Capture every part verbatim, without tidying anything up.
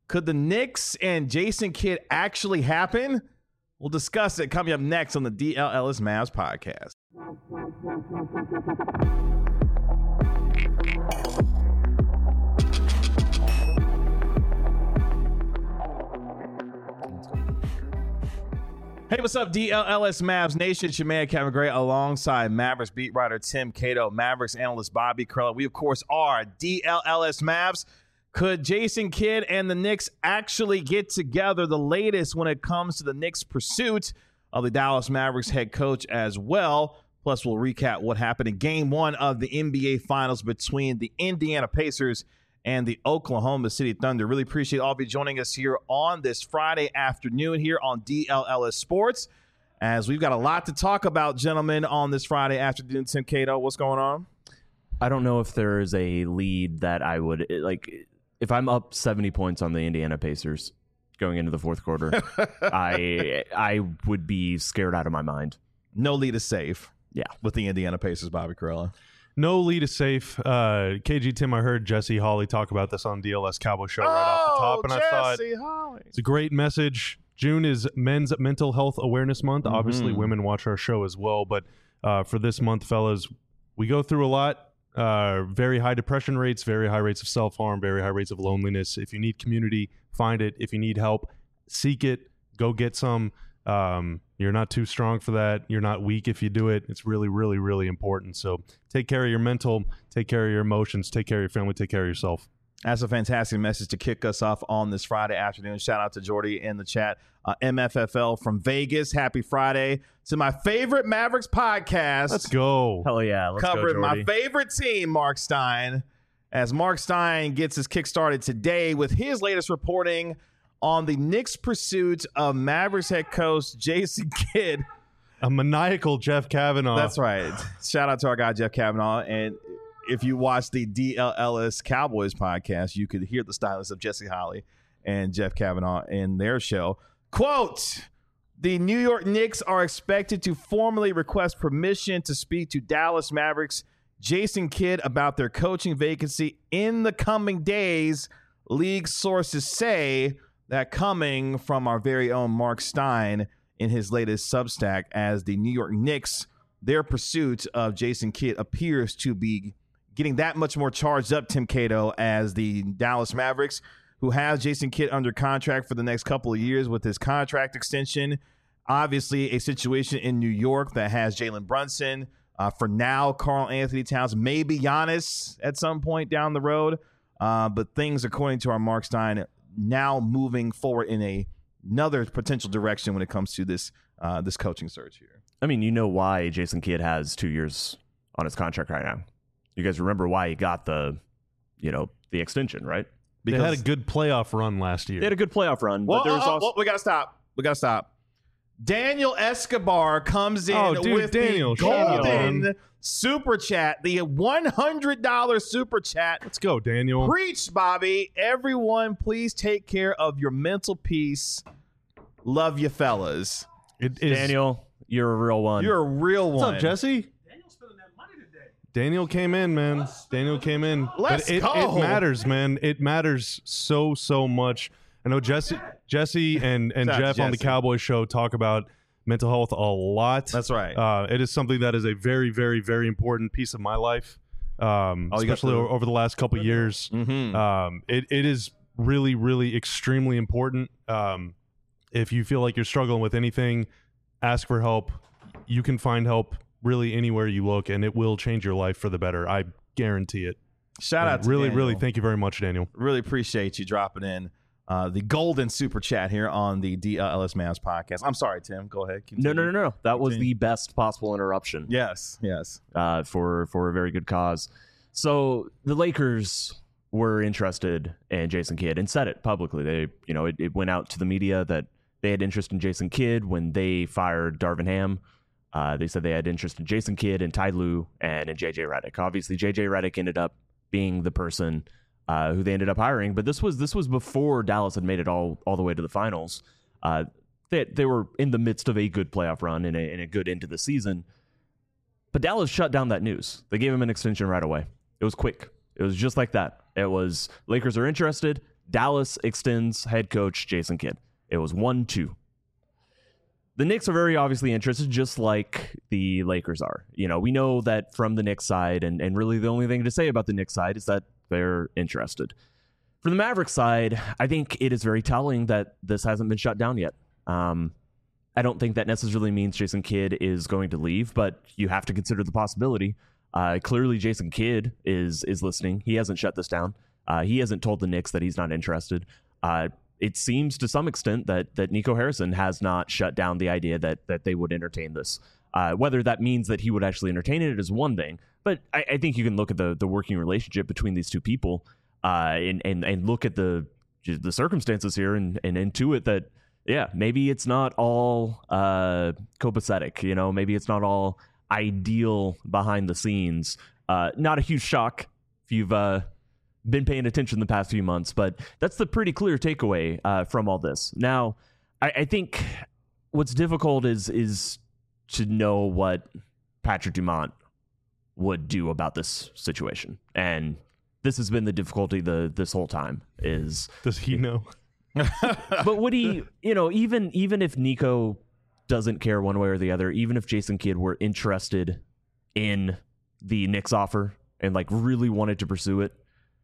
Could the Knicks and Jason Kidd actually happen? We'll discuss it coming up next on the D L Ellis Mavs podcast. Hey, what's up, D L L S Mavs Nation? It's your man, Kevin Gray, alongside Mavericks beat writer Tim Cato, Mavericks analyst Bobby Karalla. We, of course, are D L L S Mavs. Could Jason Kidd and the Knicks actually get together? The latest when it comes to the Knicks' pursuit of the Dallas Mavericks head coach as well. Plus, we'll recap what happened in game one of the N B A Finals between the Indiana Pacers and the Oklahoma City Thunder. Really appreciate all of you joining us here on this Friday afternoon here on D L L S Sports, as we've got a lot to talk about, gentlemen, on this Friday afternoon. Tim Cato, what's going on? I don't know if there is a lead that I would, like, if I'm up seventy points on the Indiana Pacers going into the fourth quarter, I I would be scared out of my mind. No lead is safe. Yeah. With the Indiana Pacers, Bobby Karalla. No lead is safe. Uh, K G, Tim, I heard Jesse Hawley talk about this on D L S Cowboy Show right oh, off the top, and Jesse I thought Hawley. It's a great message. June is Men's Mental Health Awareness Month. Mm-hmm. Obviously, women watch our show as well, but uh, for this month, fellas, we go through a lot. Uh, very high depression rates, very high rates of self-harm, very high rates of loneliness. If you need community, find it. If you need help, seek it. Go get some. Um, you're not too strong for that. You're not weak if you do it. It's really, really, really important. So take care of your mental, take care of your emotions, take care of your family, take care of yourself. That's a fantastic message to kick us off on this Friday afternoon. Shout out to Jordy in the chat. Uh, M F F L from Vegas. Happy Friday to my favorite Mavericks podcast. Let's go. Hell yeah. Let's Covering go, my favorite team, Mark Stein, as Mark Stein gets his kick started today with his latest reporting on the Knicks' pursuit of Mavericks head coach Jason Kidd. A maniacal Jeff Kavanaugh. That's right. Shout out to our guy, Jeff Kavanaugh. And if you watch the D L L S Cowboys podcast, you could hear the stylist of Jesse Hawley and Jeff Kavanaugh in their show. Quote, the New York Knicks are expected to formally request permission to speak to Dallas Mavericks Jason Kidd about their coaching vacancy in the coming days, league sources say. That coming from our very own Mark Stein in his latest Substack, as the New York Knicks, their pursuit of Jason Kidd appears to be getting that much more charged up, Tim Cato, as the Dallas Mavericks, who have Jason Kidd under contract for the next couple of years with his contract extension. Obviously, a situation in New York that has Jalen Brunson. Uh, for now, Karl Anthony Towns, maybe Giannis at some point down the road. Uh, but things, according to our Mark Stein, now moving forward in a another potential direction when it comes to this uh, this coaching search here. I mean, you know why Jason Kidd has two years on his contract right now. You guys remember why he got the, you know, the extension, right? Because they had a good playoff run last year. They had a good playoff run, well, but there's uh, also well, we gotta stop. We gotta stop. Daniel Escobar comes in oh, dude, with Daniel, the golden super chat, the one hundred dollars super chat. Let's go, Daniel. Preach, Bobby. Everyone, please take care of your mental peace. Love you, fellas. It is, Daniel, you're a real one. You're a real one. What's up, Jesse? Daniel's spending that money today. Daniel came in, man. Daniel came in. Let's but it, go. It matters, man. It matters so, so much. I know Jesse, Jesse, and and Shout out Jeff to on the Jesse. Cowboy Show talk about mental health a lot. That's right. Uh, it is something that is a very, very, very important piece of my life, um, Oh, you got especially the- o- over the last couple years. Mm-hmm. Um, it it is really, really extremely important. Um, if you feel like you're struggling with anything, ask for help. You can find help really anywhere you look, and it will change your life for the better. I guarantee it. Shout out to really, Daniel. really thank you very much, Daniel. Really appreciate you dropping in uh, the golden super chat here on the D L L S Mavs podcast. I'm sorry, Tim. Go ahead. no, no, no, no. That was Continue. the best possible interruption. Yes, yes. uh, for for a very good cause. So the Lakers were interested in Jason Kidd and said it publicly. They, you know, it, it went out to the media that they had interest in Jason Kidd when they fired Darvin Ham. Uh, they said they had interest in Jason Kidd and Ty Lue and in J J Redick. Obviously, J J Redick ended up being the person uh, who they ended up hiring. But this was this was before Dallas had made it all all the way to the finals. Uh, they they were in the midst of a good playoff run and a, and a good end to the season. But Dallas shut down that news. They gave him an extension right away. It was quick. It was just like that. It was Lakers are interested. Dallas extends head coach Jason Kidd. It was one two. The Knicks are very obviously interested, just like the Lakers are. You know, we know that from the Knicks side, and, and really the only thing to say about the Knicks side is that they're interested. For the Mavericks side, I think it is very telling that this hasn't been shut down yet. Um, I don't think that necessarily means Jason Kidd is going to leave, but you have to consider the possibility. Uh, clearly, Jason Kidd is is listening. He hasn't shut this down. Uh, he hasn't told the Knicks that he's not interested. Uh, it seems to some extent that that Nico Harrison has not shut down the idea that that they would entertain this. Uh, whether that means that he would actually entertain it is one thing, but I, I think you can look at the the working relationship between these two people uh, and and and look at the the circumstances here and and intuit that yeah, maybe it's not all uh, copacetic. You know, maybe it's not all ideal behind the scenes. Uh, not a huge shock if you've uh, been paying attention the past few months, but that's the pretty clear takeaway uh, from all this. Now, I, I think what's difficult is is to know what Patrick Dumont would do about this situation, and this has been the difficulty the this whole time. Is does he know? But would he? You know, even even if Nico doesn't care one way or the other, even if Jason Kidd were interested in the Knicks offer and like really wanted to pursue it,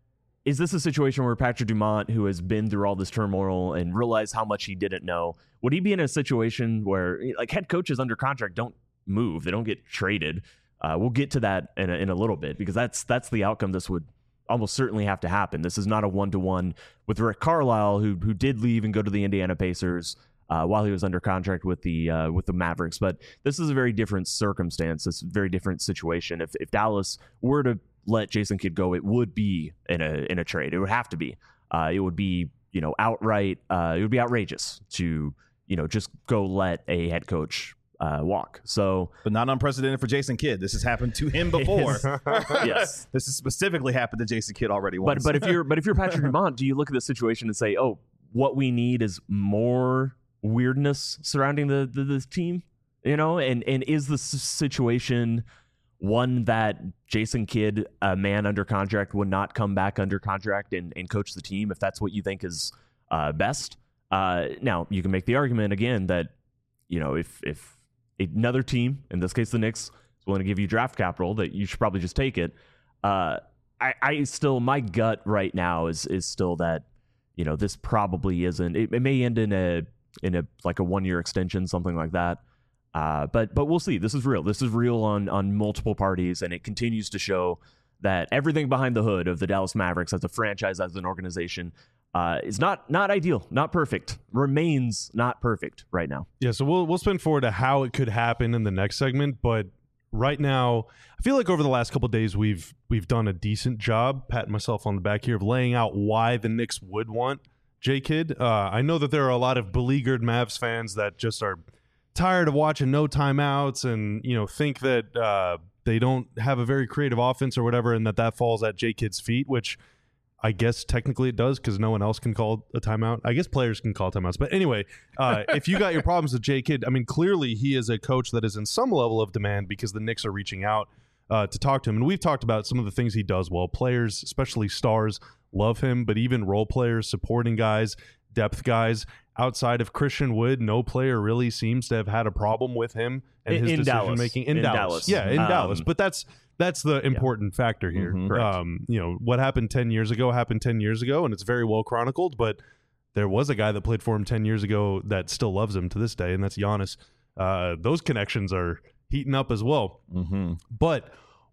is this a situation where Patrick Dumont, who has been through all this turmoil and realized how much he didn't know, would he be in a situation where like head coaches under contract don't move, they don't get traded? Uh, we'll get to that in a, in a little bit, because that's that's the outcome this would almost certainly have to happen. This is not a one-to-one with Rick Carlisle, who who did leave and go to the Indiana Pacers uh, while he was under contract with the uh, with the Mavericks. But this is a very different circumstance. It's a very different situation. If if Dallas were to let Jason Kidd go, it would be in a in a trade. It would have to be. Uh, it would be you know outright. Uh, it would be outrageous to you know just go let a head coach Uh, walk. So, but not unprecedented for Jason Kidd. This has happened to him before. Yes, this has specifically happened to Jason Kidd already once. But but if you're but if you're Patrick Dumont, do you look at the situation and say, oh, what we need is more weirdness surrounding the the, the team, you know? And and is the situation one that Jason Kidd, a man under contract, would not come back under contract and and coach the team if that's what you think is uh, best? Uh, now you can make the argument again that you know if if another team, in this case the Knicks, is willing to give you draft capital, that you should probably just take it. Uh, I, I still, my gut right now is is still that, you know, this probably isn't. It, it may end in a in a like a one year extension, something like that. Uh, but but we'll see. This is real. This is real on on multiple parties, and it continues to show that everything behind the hood of the Dallas Mavericks as a franchise, as an organization, Uh, is not not ideal, not perfect, remains not perfect right now. Yeah, so we'll we'll spin forward to how it could happen in the next segment, but right now, I feel like over the last couple of days we've we've done a decent job, patting myself on the back here, of laying out why the Knicks would want J. Kidd. Uh, I know that there are a lot of beleaguered Mavs fans that just are tired of watching no timeouts and you know think that uh, they don't have a very creative offense or whatever, and that that falls at J. Kidd's feet, which I guess technically it does, because no one else can call a timeout. I guess players can call timeouts. But anyway, uh, if you got your problems with J. Kidd, I mean, clearly he is a coach that is in some level of demand because the Knicks are reaching out uh, to talk to him. And we've talked about some of the things he does well. Players, especially stars, love him, but even role players, supporting guys, depth guys, outside of Christian Wood, no player really seems to have had a problem with him and in, his in decision-making. In, in Dallas. Dallas. Yeah, in um, Dallas. But that's... That's the important yeah. factor here. Mm-hmm. Um, you know, what happened ten years ago happened ten years ago, and it's very well chronicled, but there was a guy that played for him ten years ago that still loves him to this day, and that's Giannis. Uh, those connections are heating up as well. Mm-hmm. But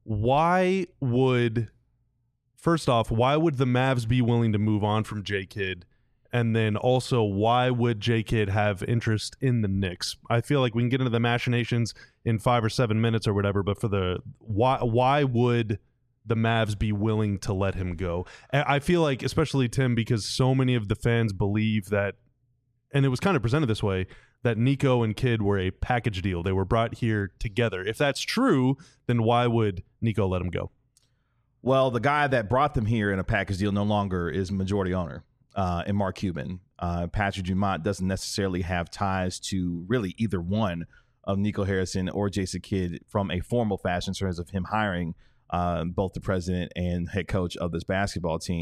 why would, first off, why would the Mavs be willing to move on from J. Kidd? And then also, why would J. Kidd have interest in the Knicks? I feel like we can get into the machinations in five or seven minutes or whatever, but for the why, why would the Mavs be willing to let him go? I feel like, especially Tim, because so many of the fans believe that, and it was kind of presented this way, that Nico and Kidd were a package deal. They were brought here together. If that's true, then why would Nico let him go? Well, the guy that brought them here in a package deal no longer is majority owner. Uh, and Mark Cuban. Uh, Patrick Dumont doesn't necessarily have ties to really either one of Nico Harrison or Jason Kidd from a formal fashion in terms of him hiring uh, both the president and head coach of this basketball team.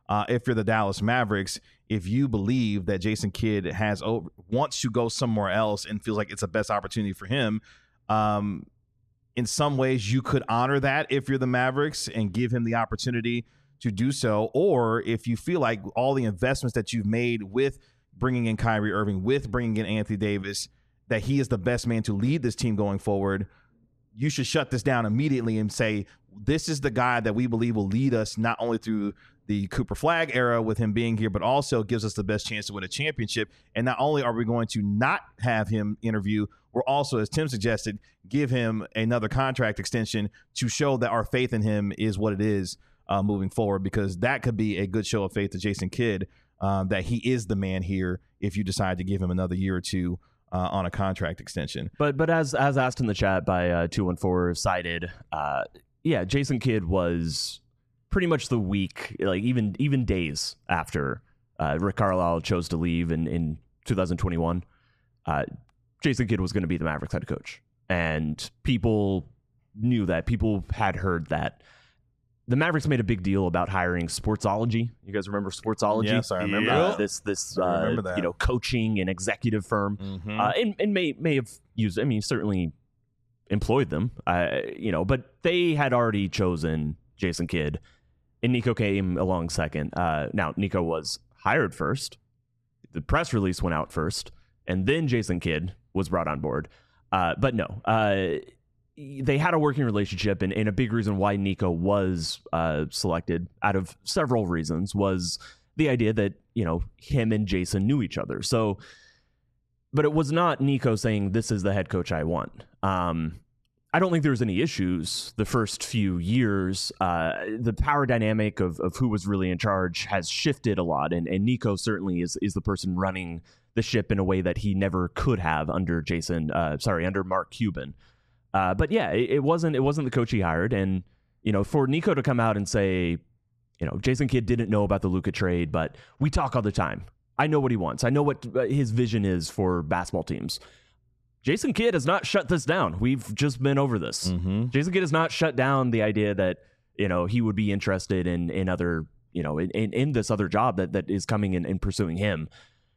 uh, if you're the Dallas Mavericks, if you believe that Jason Kidd has over, wants to go somewhere else and feels like it's the best opportunity for him, um, in some ways you could honor that if you're the Mavericks and give him the opportunity to do so. Or if you feel like all the investments that you've made with bringing in Kyrie Irving, with bringing in Anthony Davis, that he is the best man to lead this team going forward, you should shut this down immediately and say, this is the guy that we believe will lead us not only through the Cooper Flagg era with him being here, but also gives us the best chance to win a championship. And not only are we going to not have him interview, we're also, as Tim suggested, give him another contract extension to show that our faith in him is what it is uh, moving forward, because that could be a good show of faith to Jason Kidd, um, that he is the man here if you decide to give him another year or two Uh, on a contract extension. But but as as asked in the chat by uh, two one four cited, uh, yeah, Jason Kidd was pretty much the week, like even even days after uh, Rick Carlisle chose to leave in, in two thousand twenty-one, uh, Jason Kidd was going to be the Mavericks head coach. And people knew that. People had heard that. The Mavericks made a big deal about hiring Sportsology. You guys remember Sportsology? Yes, I remember uh, that. this this I uh, remember that. you know, coaching and executive firm, Mm-hmm. uh, and and may may have used. I mean, certainly employed them. Uh, you know, but they had already chosen Jason Kidd, and Nico came along second. Uh, now Nico was hired first. The press release went out first, and then Jason Kidd was brought on board. Uh, but no. Uh, They had a working relationship, and, and a big reason why Nico was uh, selected, out of several reasons, was the idea that, you know, him and Jason knew each other. So, but it was not Nico saying, this is the head coach I want. Um, I don't think there was any issues the first few years. Uh, the power dynamic of, of who was really in charge has shifted a lot, and, and Nico certainly is is the person running the ship in a way that he never could have under Jason, uh, sorry, under Mark Cuban. Uh, but yeah, it, it wasn't it wasn't the coach he hired, and you know, for Nico to come out and say, you know, Jason Kidd didn't know about the Luka trade, but we talk all the time. I know what he wants. I know what his vision is for basketball teams. Jason Kidd has not shut this down. We've just been over this. Mm-hmm. Jason Kidd has not shut down the idea that, you know, he would be interested in in other, you know, in, in, in this other job that that is coming in and pursuing him.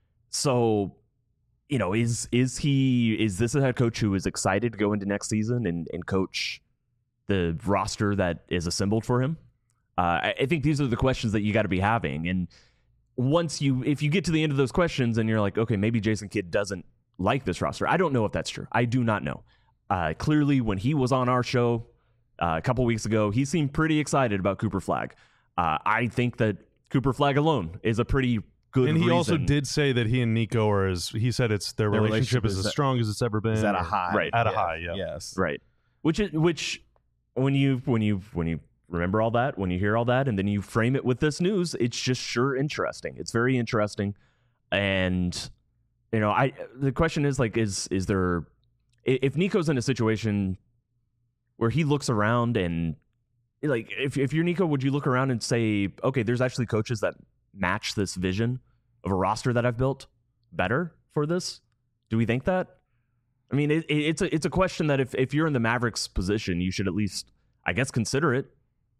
So, you know, is is he is this a head coach who is excited to go into next season and, and coach the roster that is assembled for him? Uh, I, I think these are the questions that you got to be having. And once you, if you get to the end of those questions and you're like, okay, maybe Jason Kidd doesn't like this roster. I don't know if that's true. I do not know. Uh, clearly, when he was on our show uh, a couple weeks ago, he seemed pretty excited about Cooper Flagg. Uh, I think that Cooper Flagg alone is a pretty good And he reason. also did say that he and Nico are as he said it's their, Their relationship, relationship is is as at- strong as it's ever been. Is at a or- high. Right. At a Yeah. high, yeah. Yes. Right. Which is which when you when you when you remember all that, when you hear all that, and then you frame it with this news, it's just sure interesting. It's very interesting. And you know, I the question is like, is is there if Nico's in a situation where he looks around and like if if you're Nico, would you look around and say, okay, there's actually coaches that match this vision of a roster that I've built better for this? Do we think that? I mean, it, it's a it's a question that if, if you're in the Mavericks position, you should at least, I guess, consider it.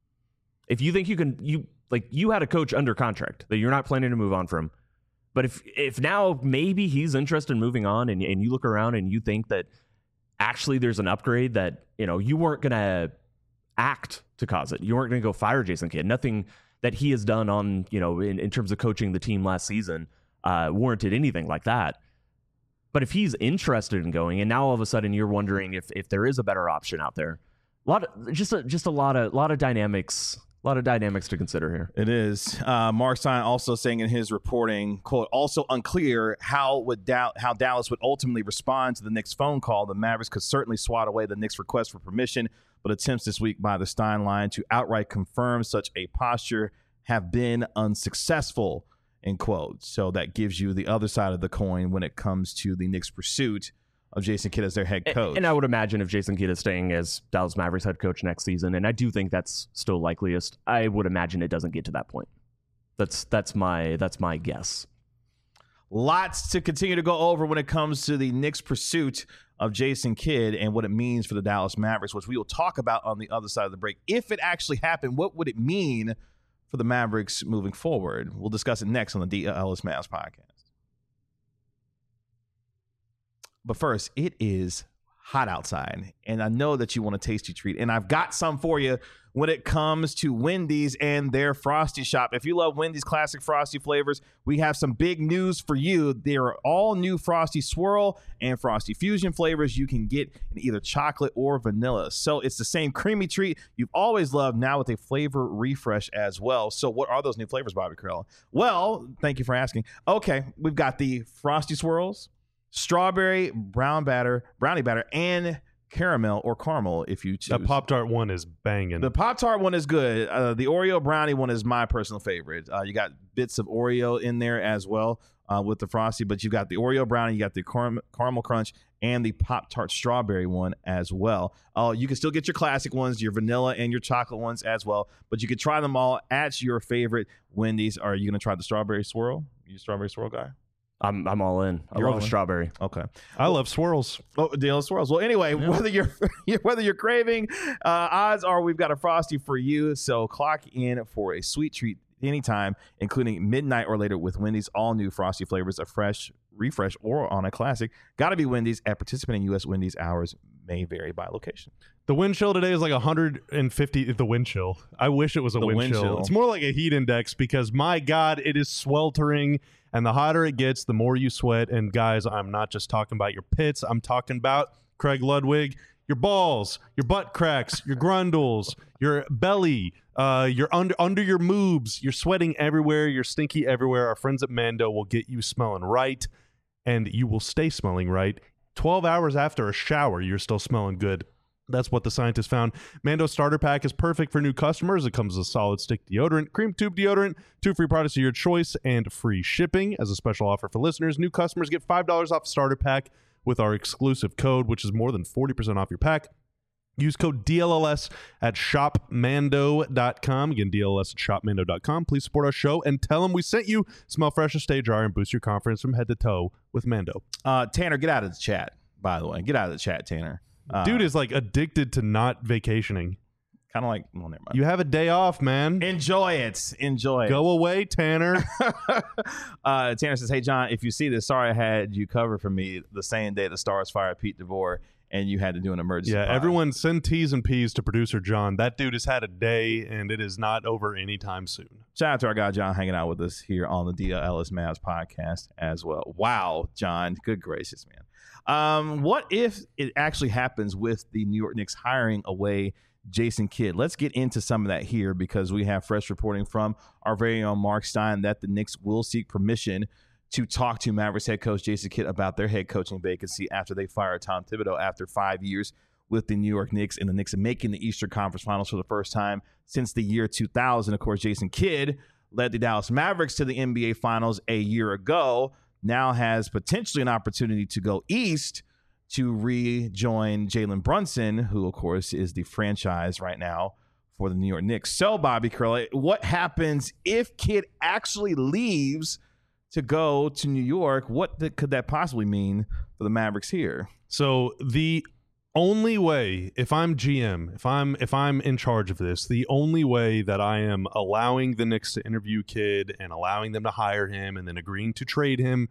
If you think you can, you like you had a coach under contract that you're not planning to move on from, but if if now maybe he's interested in moving on, and and you look around and you think that actually there's an upgrade that you know you weren't gonna act to cause it, you weren't gonna go fire Jason Kidd. Nothing that he has done on you know in, in terms of coaching the team last season uh, warranted anything like that. But if he's interested in going, and now all of a sudden you're wondering if if there is a better option out there, a lot of just a, just a lot of lot of dynamics, a lot of dynamics to consider here. It is. Uh, Mark Stein also saying in his reporting, quote, also unclear how would da- how Dallas would ultimately respond to the Knicks phone call. The Mavericks could certainly swat away the Knicks' request for permission, but attempts this week by the Stein line to outright confirm such a posture have been unsuccessful, end quote. So that gives you the other side of the coin when it comes to the Knicks' pursuit of Jason Kidd as their head coach. And, and I would imagine if Jason Kidd is staying as Dallas Mavericks head coach next season, and I do think that's still likeliest, I would imagine it doesn't get to that point. That's that's my that's my guess. Lots to continue to go over when it comes to the Knicks' pursuit of Jason Kidd and what it means for the Dallas Mavericks, which we will talk about on the other side of the break. If it actually happened, what would it mean for the Mavericks moving forward? We'll discuss it next on the D L Ellis Mavs podcast. But first, it is hot outside, and I know that you want a tasty treat, and I've got some for you when it comes to Wendy's and their Frosty Shop. If you love Wendy's classic Frosty flavors, we have some big news for you. There are all new Frosty Swirl and Frosty Fusion flavors you can get in either chocolate or vanilla. So it's the same creamy treat you've always loved, now with a flavor refresh as well. So what are those new flavors, Bobby Carell? Well, thank you for asking. Okay, we've got the Frosty Swirls, strawberry, brown batter, brownie batter, and caramel or caramel if you choose. That Pop-Tart one is banging. The Pop-Tart one is good. Uh, the Oreo brownie one is my personal favorite. Uh, you got bits of Oreo in there as well uh, with the Frosty, but you got the Oreo brownie, you got the car- caramel crunch, and the Pop-Tart strawberry one as well. Uh, you can still get your classic ones, your vanilla and your chocolate ones as well, but you can try them all at your favorite Wendy's. Are you going to try the strawberry swirl? You a strawberry swirl guy? I'm I'm all in. I You're love all a in? strawberry. Okay. I love swirls. Oh, deal of swirls. Well, anyway, Yeah. whether you're whether you're craving, uh, odds are we've got a Frosty for you. So clock in for a sweet treat anytime, including midnight or later with Wendy's all new Frosty flavors, a fresh refresh or on a classic. Got to be Wendy's. At participating U S Wendy's, hours may vary by location. The wind chill today is like one hundred fifty. The wind chill. I wish it was a The wind, wind chill. chill. It's more like a heat index because, my God, it is sweltering. And the hotter it gets, the more you sweat. And guys, I'm not just talking about your pits. I'm talking about, Craig Ludwig, your balls, your butt cracks, your grundles, your belly, uh, your under under your moobs. You're sweating everywhere. You're stinky everywhere. Our friends at Mando will get you smelling right, and you will stay smelling right. twelve hours after a shower, you're still smelling good. That's what the scientists found. Mando Starter Pack is perfect for new customers. It comes with a solid stick deodorant, cream tube deodorant, two free products of your choice, and free shipping. As a special offer for listeners, new customers get five dollars off Starter Pack with our exclusive code, which is more than forty percent off your pack. Use code D L L S at shop mando dot com. Again, D L L S at shop mando dot com. Please support our show and tell them we sent you. Smell fresh and stay dry and boost your confidence from head to toe with Mando. Uh, Tanner, get out of the chat, by the way. Get out of the chat, Tanner. Uh, Dude is like addicted to not vacationing. kind of like, well, never mind. You have a day off, man. Enjoy it. Enjoy it. Go away, Tanner. uh, Tanner says, hey, John, if you see this, sorry I had you cover for me the same day the Stars fired Pete DeVore and you had to do an emergency Yeah, pod. everyone send T's and P's to producer John. That dude has had a day, and it is not over anytime soon. Shout out to our guy, John, hanging out with us here on the D L Ellis Mavs podcast as well. Wow, John. Good gracious, man. Um, what if it actually happens with the New York Knicks hiring away Jason Kidd? Let's get into some of that here because we have fresh reporting from our very own Mark Stein that the Knicks will seek permission to talk to Mavericks head coach Jason Kidd about their head coaching vacancy after they fired Tom Thibodeau after five years with the New York Knicks, and the Knicks are making the Eastern Conference Finals for the first time since the year two thousand. Of course, Jason Kidd led the Dallas Mavericks to the N B A Finals a year ago, now has potentially an opportunity to go east to rejoin Jalen Brunson, who, of course, is the franchise right now for the New York Knicks. So, Bobby Curley, what happens if Kidd actually leaves to go to New York? What th- could that possibly mean for the Mavericks here? So the only way, if I'm G M, if I'm if I'm in charge of this, the only way that I am allowing the Knicks to interview Kidd and allowing them to hire him and then agreeing to trade him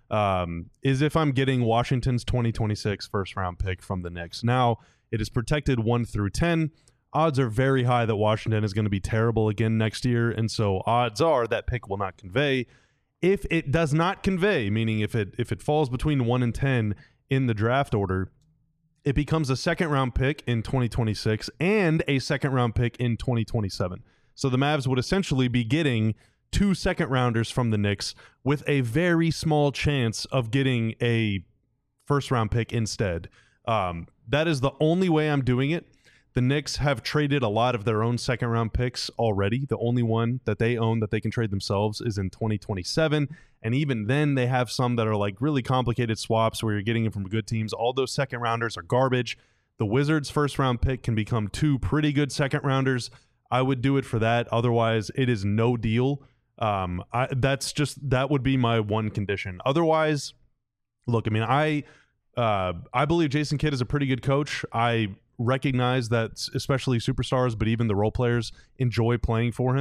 um, is if I'm getting Washington's twenty twenty-six first round pick from the Knicks. Now, it is protected one through ten. Odds are very high that Washington is going to be terrible again next year, and so odds are that pick will not convey. If it does not convey, meaning if it if it falls between one and ten in the draft order, it becomes a second round pick in twenty twenty-six and a second round pick in twenty twenty-seven. So the Mavs would essentially be getting two second rounders from the Knicks with a very small chance of getting a first round pick instead. Um, that is the only way I'm doing it. The Knicks have traded a lot of their own second round picks already. The only one that they own that they can trade themselves is in twenty twenty-seven. And even then, they have some that are like really complicated swaps where you're getting them from good teams. All those second rounders are garbage. The Wizards' first round pick can become two pretty good second rounders. I would do it for that. Otherwise, it is no deal. Um, I, that's just that would be my one condition. Otherwise, look, I mean, I uh, I believe Jason Kidd is a pretty good coach. I recognize that especially superstars, but even the role players enjoy playing for him.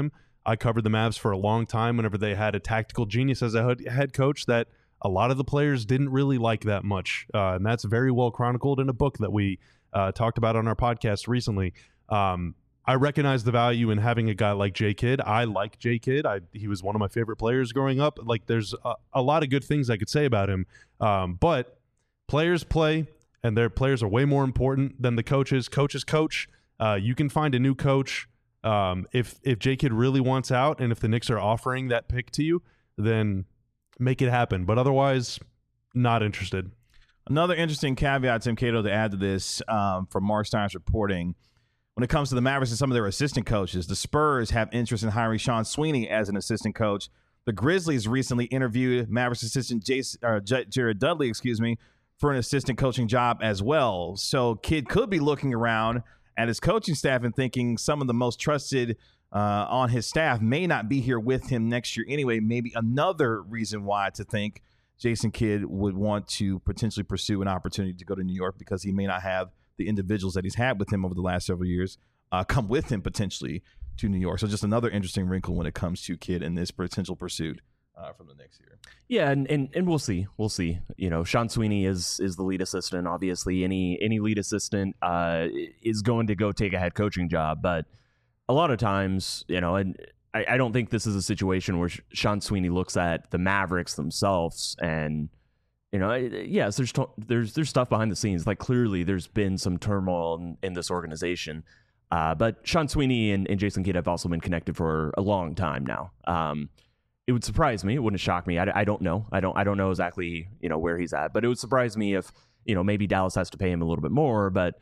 I covered the Mavs for a long time whenever they had a tactical genius as a head coach that a lot of the players didn't really like that much. Uh, and that's very well chronicled in a book that we uh, talked about on our podcast recently. Um, I recognize the value in having a guy like J. Kidd. I like J. Kidd. I, he was one of my favorite players growing up. Like, there's a, a lot of good things I could say about him. Um, but players play, and their players are way more important than the coaches. Coaches coach. Uh, you can find a new coach. Um, if if J. Kidd really wants out, and if the Knicks are offering that pick to you, then make it happen. But otherwise, not interested. Another interesting caveat, Tim Cato, to add to this um, from Mark Stein's reporting. When it comes to the Mavericks and some of their assistant coaches, the Spurs have interest in hiring Sean Sweeney as an assistant coach. The Grizzlies recently interviewed Mavericks assistant Jason, or J- Jared Dudley, excuse me, for an assistant coaching job as well. So Kidd could be looking around at his coaching staff and thinking some of the most trusted uh, on his staff may not be here with him next year anyway. Maybe another reason why to think Jason Kidd would want to potentially pursue an opportunity to go to New York, because he may not have the individuals that he's had with him over the last several years uh, come with him potentially to New York. So just another interesting wrinkle when it comes to Kidd and this potential pursuit uh, from the next year. Yeah, and, and and we'll see. We'll see. You know, Sean Sweeney is is the lead assistant. Obviously, any any lead assistant uh, is going to go take a head coaching job. But a lot of times, you know, and I, I don't think this is a situation where Sean Sweeney looks at the Mavericks themselves and, you know, yes, there's there's there's stuff behind the scenes. Like, clearly, there's been some turmoil in, in this organization. Uh, but Sean Sweeney and, and Jason Kidd have also been connected for a long time now. Um, it would surprise me. It wouldn't shock me. I, I don't know. I don't I don't know exactly, you know, where he's at. But it would surprise me if, you know, maybe Dallas has to pay him a little bit more. But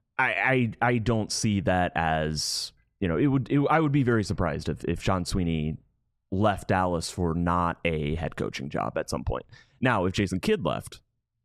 I I, I don't see that as, you know, it would. It, I would be very surprised if if Sean Sweeney left Dallas for not a head coaching job at some point. Now, if Jason Kidd left,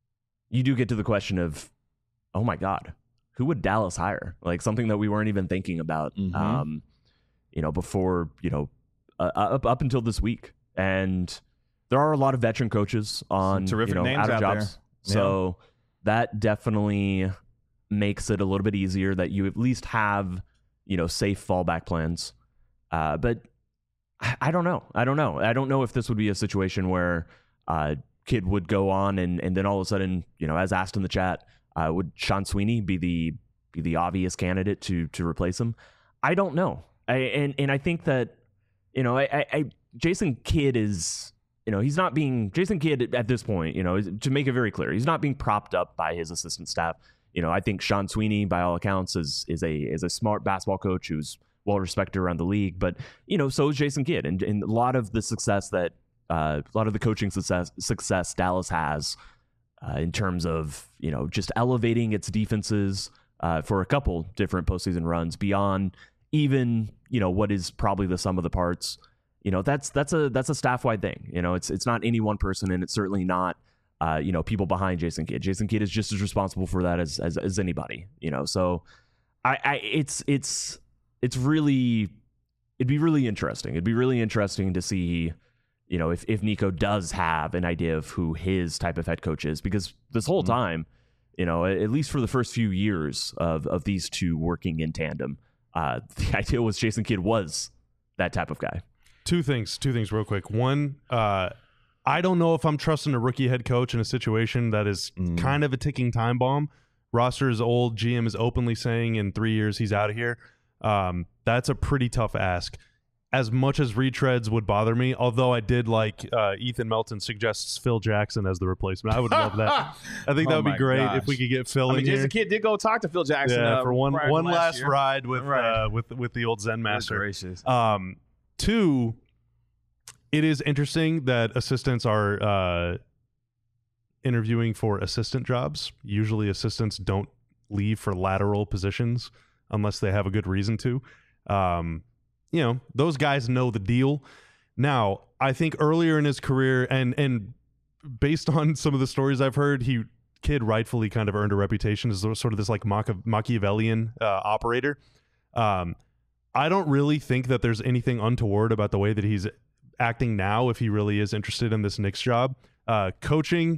you do get to the question of, oh my God, who would Dallas hire? Like, something that we weren't even thinking about, mm-hmm. um, you know, before, you know, uh, up up until this week. And there are a lot of veteran coaches on, Some terrific you know, names out of out jobs. there. So yeah. That definitely makes it a little bit easier that you at least have, you know, safe fallback plans. Uh, but I, I don't know. I don't know. I don't know if this would be a situation where uh, Kidd would go on and, and then all of a sudden, you know, as asked in the chat, uh, would Sean Sweeney be the be the obvious candidate to to replace him? I don't know. I, and and I think that, you know, I, I, I Jason Kidd is, you know, he's not being Jason Kidd at this point, you know, to make it very clear, he's not being propped up by his assistant staff. You know, I think Sean Sweeney, by all accounts, is is a is a smart basketball coach who's well respected around the league. But, you know, so is Jason Kidd, and, and a lot of the success that uh, a lot of the coaching success success Dallas has uh, in terms of, you know, just elevating its defenses uh, for a couple different postseason runs beyond even, you know, what is probably the sum of the parts. You know, that's that's a that's a staff wide thing. You know, it's it's not any one person, and it's certainly not uh, you know, people behind Jason Kidd. Jason Kidd is just as responsible for that as as, as anybody. You know, so I, I it's it's it's really it'd be really interesting. It'd be really interesting to see, you know, if if Nico does have an idea of who his type of head coach is, because this whole Mm-hmm. time, you know, at least for the first few years of of these two working in tandem, uh, the idea was Jason Kidd was that type of guy. Two things, two things real quick. One, uh, I don't know if I'm trusting a rookie head coach in a situation that is Mm. kind of a ticking time bomb. Roster is old. G M is openly saying in three years he's out of here. Um, that's a pretty tough ask. As much as retreads would bother me, although I did like uh, Ethan Melton suggests Phil Jackson as the replacement. I would love that. I think Oh that would be my great gosh. if we could get Phil I mean, in Jason here. Kidd did go talk to Phil Jackson Yeah, uh, for one prior to one last year. ride with Right. uh, with with the old Zen master. Gracious. Um, two, it is interesting that assistants are uh, interviewing for assistant jobs. Usually assistants don't leave for lateral positions unless they have a good reason to. Um, you know, those guys know the deal. Now, I think earlier in his career, and and based on some of the stories I've heard, he Kidd rightfully kind of earned a reputation as sort of this like Machi- Machiavellian uh, operator. Um, I don't really think that there's anything untoward about the way that he's acting now if he really is interested in this Knicks job. Uh, coaching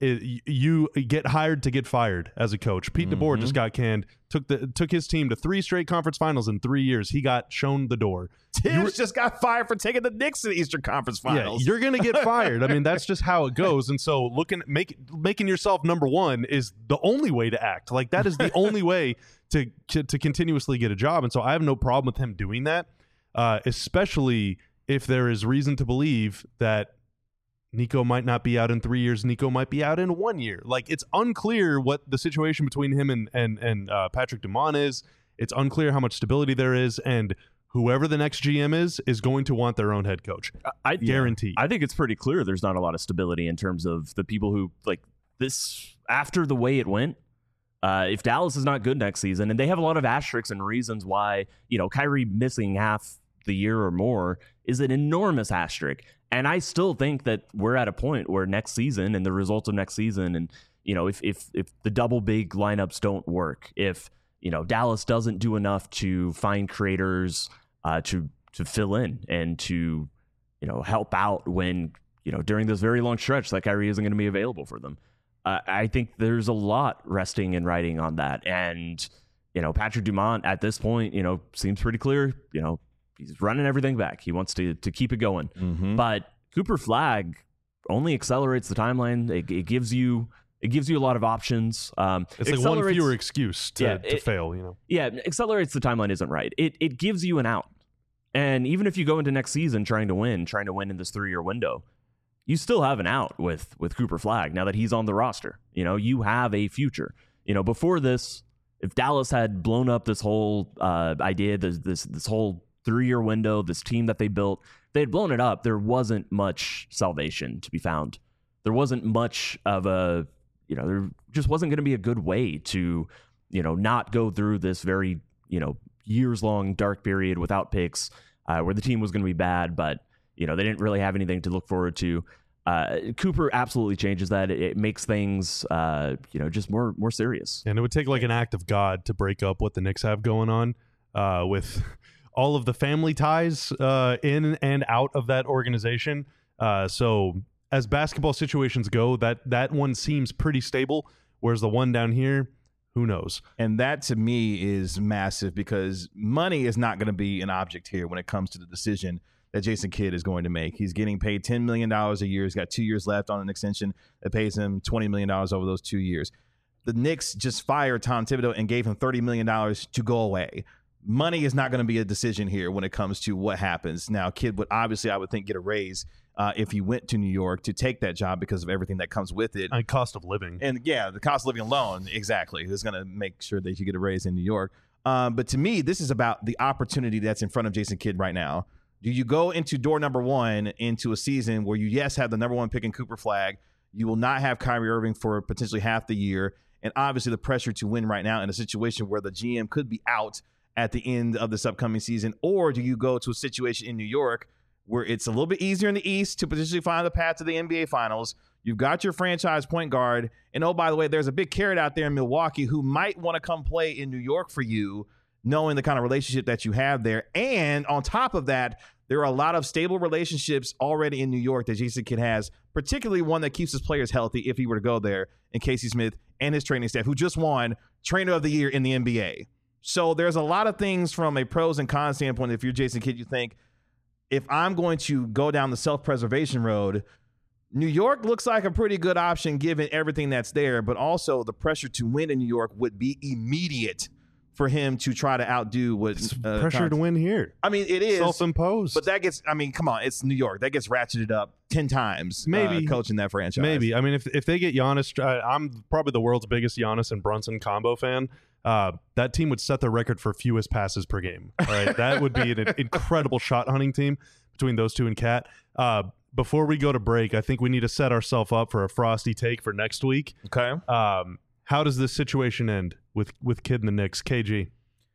it, you get hired to get fired as a coach. Pete Mm-hmm. DeBoer just got canned. Took the took his team to three straight conference finals in three years. He got shown the door. Tibbs were- just got fired for taking the Knicks to the Eastern Conference Finals. Yeah, you're gonna get fired. I mean, that's just how it goes. And so, looking make making yourself number one is the only way to act. Like that is the only way to, to to continuously get a job. And so, I have no problem with him doing that, uh, especially if there is reason to believe that Nico might not be out in three years. Nico might be out in one year. Like it's unclear what the situation between him and and and uh, Patrick Dumont is. It's unclear how much stability there is, and whoever the next G M is is going to want their own head coach. I Guaranteed. I think it's pretty clear there's not a lot of stability in terms of the people who like this after the way it went. Uh, if Dallas is not good next season, and they have a lot of asterisks and reasons why, you know, Kyrie missing half the year or more is an enormous asterisk. And I still think that we're at a point where next season and the results of next season, and you know, if if if the double big lineups don't work, if you know Dallas doesn't do enough to find creators uh, to to fill in and to you know help out when you know during this very long stretch that Kyrie isn't going to be available for them, uh, I think there's a lot resting and riding on that. And you know, Patrick Dumont at this point, you know, seems pretty clear. You know, he's running everything back. He wants to to keep it going. Mm-hmm. But Cooper Flagg only accelerates the timeline. It, it gives you it gives you a lot of options. Um, It's like one fewer excuse to, Yeah, to it- fail, you know. yeah, accelerates the timeline isn't right. It it gives you an out. And even if you go into next season trying to win, trying to win in this three-year window, you still have an out with with Cooper Flagg now that he's on the roster. You know, you have a future. You know, before this, if Dallas had blown up this whole uh, idea, this this this whole three-year window, this team that they built, they had blown it up. There wasn't much salvation to be found. There wasn't much of a, you know, there just wasn't going to be a good way to, you know, not go through this very, you know, years-long dark period without picks, uh, where the team was going to be bad, but, you know, they didn't really have anything to look forward to. Uh, Cooper absolutely changes that. It, it makes things, uh, you know, just more more serious. And it would take like an act of God to break up what the Knicks have going on uh, with all of the family ties uh, in and out of that organization. Uh, so as basketball situations go, that that one seems pretty stable, whereas the one down here, who knows? And that to me is massive because money is not going to be an object here when it comes to the decision that Jason Kidd is going to make. He's getting paid ten million dollars a year. He's got two years left on an extension that pays him twenty million dollars over those two years. The Knicks just fired Tom Thibodeau and gave him thirty million dollars to go away. Money is not going to be a decision here when it comes to what happens. Now, Kidd would obviously, I would think, get a raise uh, if he went to New York to take that job because of everything that comes with it. And cost of living. And yeah, the cost of living alone, exactly, is going to make sure that you get a raise in New York. Um, but to me, this is about the opportunity that's in front of Jason Kidd right now. Do you go into door number one into a season where you, yes, have the number one pick in Cooper Flagg, you will not have Kyrie Irving for potentially half the year, and obviously the pressure to win right now in a situation where the G M could be out at the end of this upcoming season? Or do you go to a situation in New York where it's a little bit easier in the East to potentially find the path to the N B A Finals? You've got your franchise point guard. And oh, by the way, there's a big carrot out there in Milwaukee who might want to come play in New York for you, knowing the kind of relationship that you have there. And on top of that, there are a lot of stable relationships already in New York that Jason Kidd has, particularly one that keeps his players healthy if he were to go there, and Casey Smith and his training staff, who just won Trainer of the Year in the N B A. So there's a lot of things from a pros and cons standpoint. If you're Jason Kidd, you think, if I'm going to go down the self-preservation road, New York looks like a pretty good option given everything that's there, but also the pressure to win in New York would be immediate for him to try to outdo what uh, Pressure Con- to win here. I mean, it is Self-imposed. but that gets, I mean, come on, it's New York. That gets ratcheted up ten times. Maybe. uh, coaching that franchise. Maybe. I mean, if if they get Giannis, uh, I'm probably the world's biggest Giannis and Brunson combo fan. Uh, that team would set the record for fewest passes per game. All right, that would be an incredible shot hunting team between those two and Cat. Uh, before we go to break, I think we need to set ourselves up for a frosty take for next week. Okay. Um, how does this situation end with with Kidd and the Knicks? K G.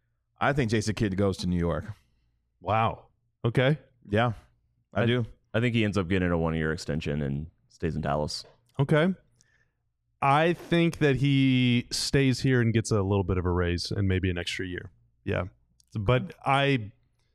I think Jason Kidd goes to New York. Wow. Okay. Yeah, I, I- do. I think he ends up getting a one-year extension and stays in Dallas. Okay. I think that he stays here and gets a little bit of a raise and maybe an extra year. Yeah. But I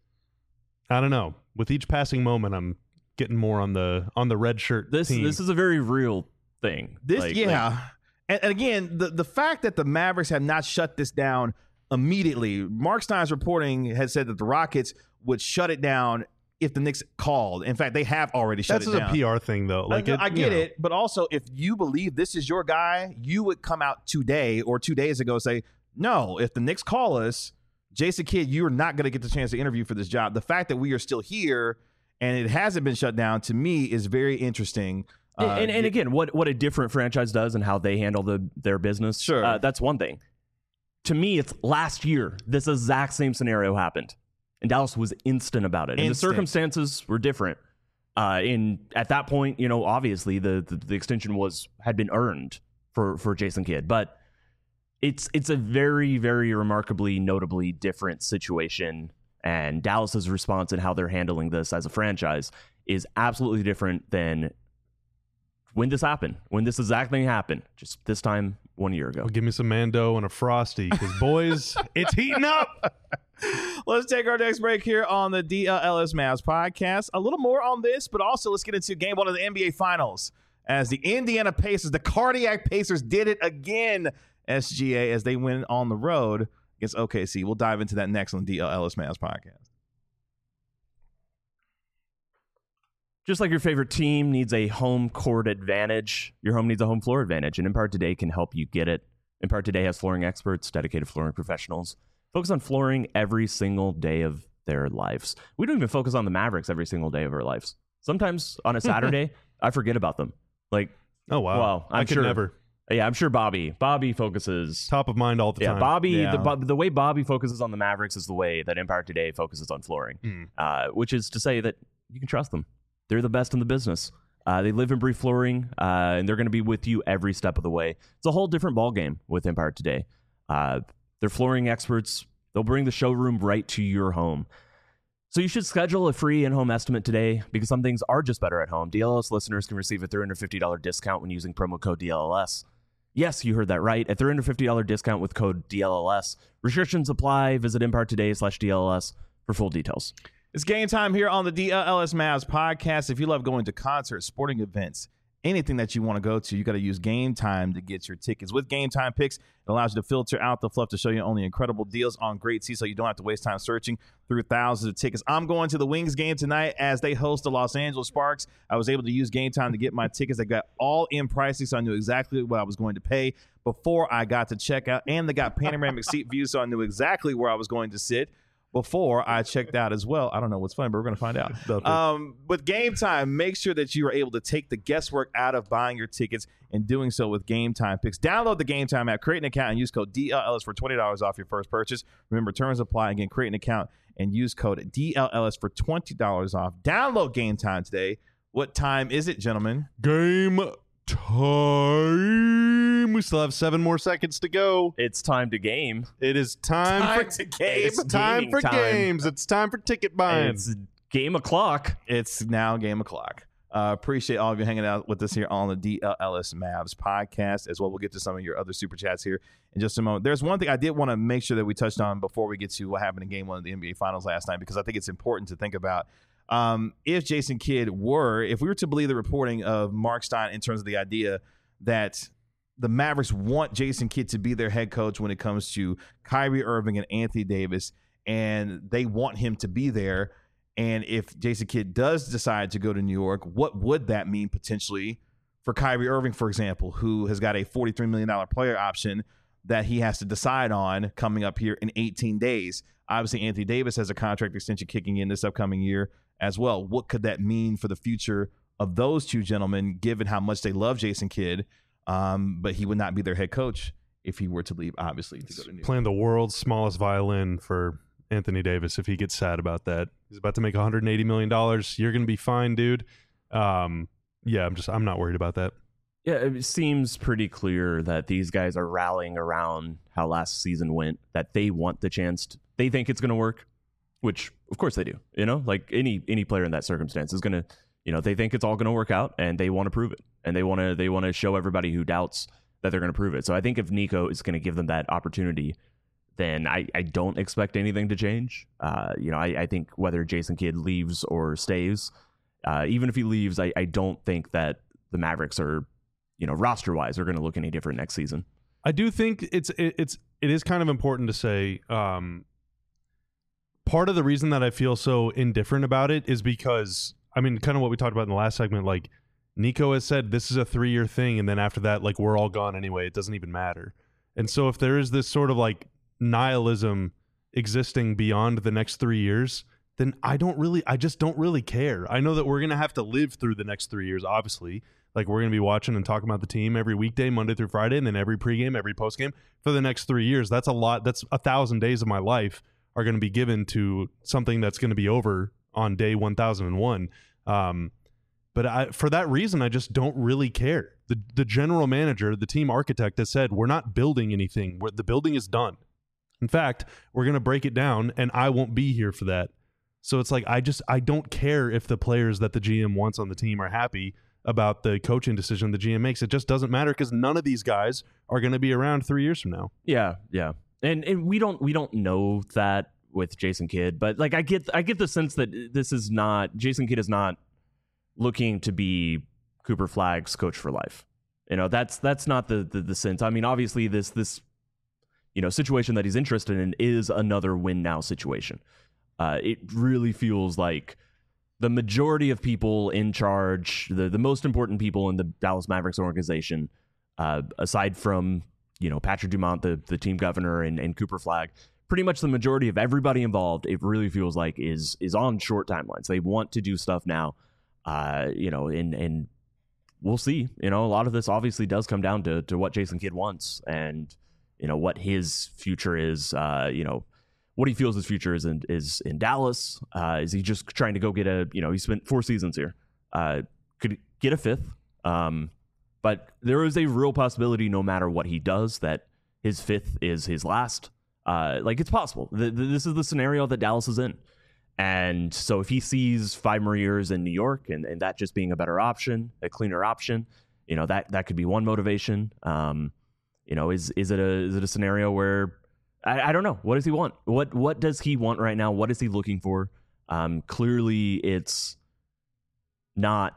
I don't know. With each passing moment I'm getting more on the on the red shirt This team. this is a very real thing. This, Like- yeah. like- and, and again, the, the fact that the Mavericks have not shut this down immediately, Mark Stein's reporting has said that the Rockets would shut it down if the Knicks called. In fact, they have already shut That's it down. a P R thing, though. Like I, it, I you get know. it, but also if you believe this is your guy, you would come out today or two days ago and say, no, if the Knicks call us, Jason Kidd, you are not going to get the chance to interview for this job. The fact that we are still here and it hasn't been shut down, to me, is very interesting. And, Uh, and, and again, what, what a different franchise does and how they handle the, their business, Sure. uh, that's one thing. To me, it's last year, this exact same scenario happened. And Dallas was instant about it. And the Instant. circumstances were different. Uh, in at that point, you know, obviously the, the, the extension was had been earned for, for Jason Kidd. But it's it's a very, very remarkably, notably different situation. And Dallas's response and how they're handling this as a franchise is absolutely different than when this happened, when this exact thing happened, just this time one year ago. Well, give me some Mando and a Frosty, because boys, it's heating up. Let's take our next break here on the D L L S Mavs podcast. A little more on this, but also let's get into game one of the N B A Finals as the Indiana Pacers, the Cardiac Pacers, did it again, S G A, as they win on the road against O K C. We'll dive into that next on the D L L S Mavs podcast. Just like your favorite team needs a home court advantage, your home needs a home floor advantage, and Empire Today can help you get it. Empire Today has flooring experts, dedicated flooring professionals, focus on flooring every single day of their lives. We don't even focus on the Mavericks every single day of our lives. Sometimes on a Saturday, I forget about them. Like, Oh wow, well, I'm I could sure, never. Yeah, I'm sure Bobby. Bobby focuses. Top of mind all the Yeah, time. Bobby. Yeah. The, Bo- the way Bobby focuses on the Mavericks is the way that Empire Today focuses on flooring, Mm. uh, which is to say that you can trust them. They're the best in the business. Uh, they live and breathe flooring, uh, and they're going to be with you every step of the way. It's a whole different ballgame with Empire Today. Uh, they're flooring experts. They'll bring the showroom right to your home. So you should schedule a free in-home estimate today because some things are just better at home. D L S listeners can receive a three hundred fifty dollars discount when using promo code D L L S. Yes, you heard that right. A three hundred fifty dollars discount with code D L L S. Restrictions apply. Visit Empire Today slash D L L S for full details. It's game time here on the D L L S Mavs podcast. If you love going to concerts, sporting events, anything that you want to go to, you got to use Game Time to get your tickets. With Game Time Picks, it allows you to filter out the fluff to show you only incredible deals on great seats so you don't have to waste time searching through thousands of tickets. I'm going to the Wings game tonight as they host the Los Angeles Sparks. I was able to use Game Time to get my tickets. I got all in pricing, so I knew exactly what I was going to pay before I got to check out. And they got panoramic seat views, so I knew exactly where I was going to sit before I checked out as well. I don't know what's funny, but we're going to find out. Um, with Game Time, make sure that you are able to take the guesswork out of buying your tickets and doing so with Game Time Picks. Download the Game Time app, create an account, and use code D L L S for twenty dollars off your first purchase. Remember, terms apply. Again, create an account and use code D L L S for twenty dollars off. Download Game Time today. What time is it, gentlemen? Game time. We still have seven more seconds to go. It's time to game. It is time, Time for to game. It's time Gaming for time. games. It's time for ticket buying. It's game o'clock. It's now game o'clock. Uh, appreciate all of you hanging out with us here on the D L L S Mavs podcast as well. We'll get to some of your other super chats here in just a moment. There's one thing I did want to make sure that we touched on before we get to what happened in game one of the N B A Finals last night, because I think it's important to think about. Um, if Jason Kidd were, if we were to believe the reporting of Mark Stein in terms of the idea that the Mavericks want Jason Kidd to be their head coach when it comes to Kyrie Irving and Anthony Davis, and they want him to be there. And if Jason Kidd does decide to go to New York, what would that mean potentially for Kyrie Irving, for example, who has got a forty-three million dollars player option that he has to decide on coming up here in eighteen days? Obviously, Anthony Davis has a contract extension kicking in this upcoming year as well. What could that mean for the future of those two gentlemen, given how much they love Jason Kidd, um, but he would not be their head coach if he were to leave, obviously, to go to New York. Playing the world's smallest violin for Anthony Davis if he gets sad about that. He's about to make one hundred eighty million dollars. You're going to be fine, dude. Um, yeah, I'm just I'm not worried about that. Yeah, it seems pretty clear that these guys are rallying around how last season went, that they want the chance to, they think it's going to work, which of course they do. You know, like any any player in that circumstance is going to, you know, they think it's all going to work out and they want to prove it. And they want to they want to show everybody who doubts that they're going to prove it. So I think if Nico is going to give them that opportunity, then I, I don't expect anything to change. Uh, you know, I, I think whether Jason Kidd leaves or stays, uh, even if he leaves, I, I don't think that the Mavericks are, you know, roster wise are going to look any different next season. I do think it's it, it's it is kind of important to say. Um, part of the reason that I feel so indifferent about it is because I mean, kind of what we talked about in the last segment. Like Nico has said, this is a three-year thing, and then after that, like we're all gone anyway. It doesn't even matter. And so, if there is this sort of like nihilism existing beyond the next three years, then I don't really, I just don't really care. I know that we're gonna have to live through the next three years, obviously. Like we're going to be watching and talking about the team every weekday, Monday through Friday, and then every pregame, every postgame for the next three years. That's a lot. That's a thousand days of my life are going to be given to something that's going to be over on day one thousand one. Um, but I, for that reason, I just don't really care. The the general manager, the team architect has said, we're not building anything. We're, the building is done. In fact, we're going to break it down, and I won't be here for that. So it's like I just I don't care if the players that the G M wants on the team are happy about the coaching decision the G M makes. It just doesn't matter because none of these guys are going to be around three years from now. Yeah, yeah, and and we don't we don't know that with Jason Kidd, but like I get I get the sense that this is not Jason Kidd is not looking to be Cooper Flagg's coach for life. You know, that's that's not the the, the sense. I mean, obviously this this you know situation that he's interested in is another win now situation. Uh, it really feels like the majority of people in charge, the, the most important people in the Dallas Mavericks organization, uh, aside from, you know, Patrick Dumont, the, the team governor, and, and Cooper Flagg, pretty much the majority of everybody involved, it really feels like is is on short timelines. They want to do stuff now, uh, you know, and, and we'll see. You know, a lot of this obviously does come down to, to what Jason Kidd wants and, you know, what his future is, uh, you know, what he feels his future is in is in Dallas. Uh, is he just trying to go get a, you know, he spent four seasons here. Uh, could get a fifth. Um, but there is a real possibility no matter what he does that his fifth is his last. Uh, like it's possible. The, the, this is the scenario that Dallas is in. And so if he sees five more years in New York and, and that just being a better option, a cleaner option, you know, that, that could be one motivation. Um, you know, is, is it a, is it a scenario where, I, I don't know. What does he want? What what does he want right now? What is he looking for? Um, clearly, it's not.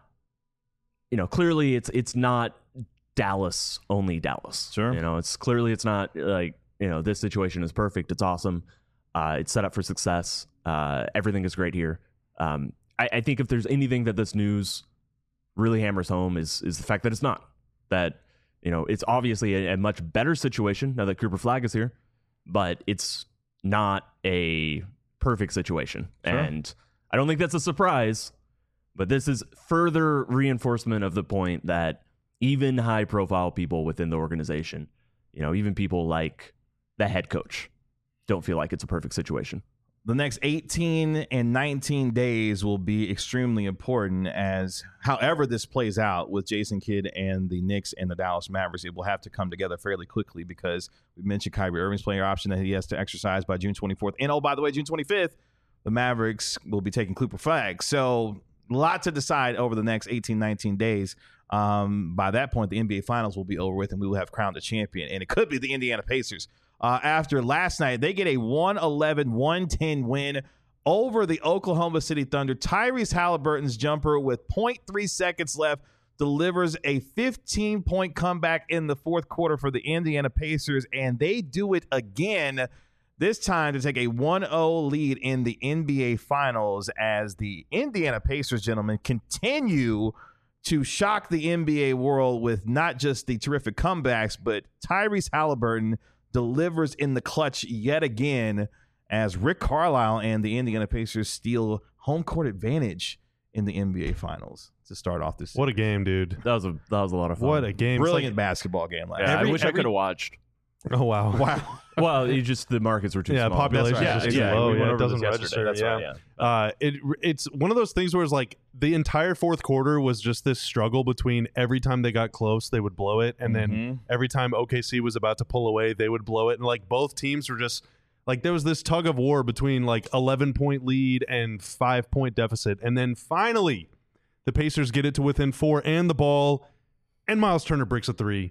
You know, clearly it's it's not Dallas only Dallas. Sure. You know, it's clearly it's not like you know this situation is perfect. It's awesome. Uh, it's set up for success. Uh, everything is great here. Um, I, I think if there's anything that this news really hammers home is is the fact that it's not. That you know it's obviously a, a much better situation now that Cooper Flagg is here. But it's not a perfect situation. Sure. And I don't think that's a surprise, but this is further reinforcement of the point that even high-profile people within the organization, you know, even people like the head coach, don't feel like it's a perfect situation. The next eighteen and nineteen days will be extremely important as however this plays out with Jason Kidd and the Knicks and the Dallas Mavericks, it will have to come together fairly quickly because we mentioned Kyrie Irving's player option that he has to exercise by June twenty-fourth. And oh, by the way, June twenty-fifth, the Mavericks will be taking Cooper Flagg. So a lot to decide over the next eighteen, nineteen days. Um, by that point, the N B A Finals will be over with and we will have crowned a champion. And it could be the Indiana Pacers. Uh, after last night, they get a one eleven, one ten win over the Oklahoma City Thunder. Tyrese Halliburton's jumper with zero point three seconds left delivers a fifteen-point comeback in the fourth quarter for the Indiana Pacers, and they do it again, this time to take a one oh lead in the N B A Finals as the Indiana Pacers, gentlemen, continue to shock the N B A world with not just the terrific comebacks, but Tyrese Halliburton delivers in the clutch yet again as Rick Carlisle and the Indiana Pacers steal home court advantage in the N B A Finals to start off this season. What a game, dude. That was a that was a lot of fun. What a game. Brilliant like, basketball game. Last yeah, every, I wish every, I could have watched. Oh, wow. Wow. Well, it just the markets were too yeah, small. population Right. is just yeah, too low. we went Yeah, over it doesn't this register. yesterday. Yeah. That's right, Uh, it it's one of those things where it's like the entire fourth quarter was just this struggle between every time they got close, they would blow it. And Mhm. then every time O K C was about to pull away, they would blow it. And like both teams were just like there was this tug of war between like eleven point lead and five point deficit. And then finally the Pacers get it to within four and the ball, and Miles Turner breaks a three.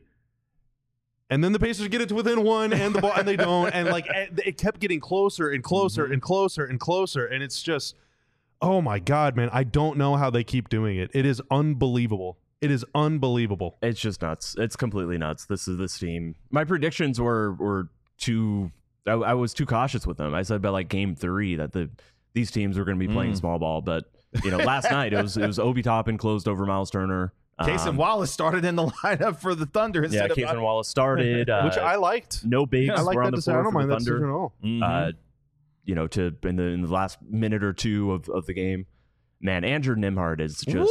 And then the Pacers get it to within one and the ball, and they don't. And like it kept getting closer and closer Mm-hmm. and closer and closer. And it's just, oh my God, man, I don't know how they keep doing it. It is unbelievable. It is unbelievable. It's just nuts. It's completely nuts. This is this team. My predictions were were too. I, I was too cautious with them. I said by like game three that the these teams were going to be playing mm. small ball, but you know, last night it was it was Obi Toppin closed over Miles Turner. Cason um, Wallace started in the lineup for the Thunder. Yeah, Cason Wallace started, uh, which I liked. No bigs. I like were that on the decision. I floor don't mind for the that decision at all. Mm-hmm. Uh, you know, to in the in the last minute or two of, of the game, man, Andrew Nembhard is just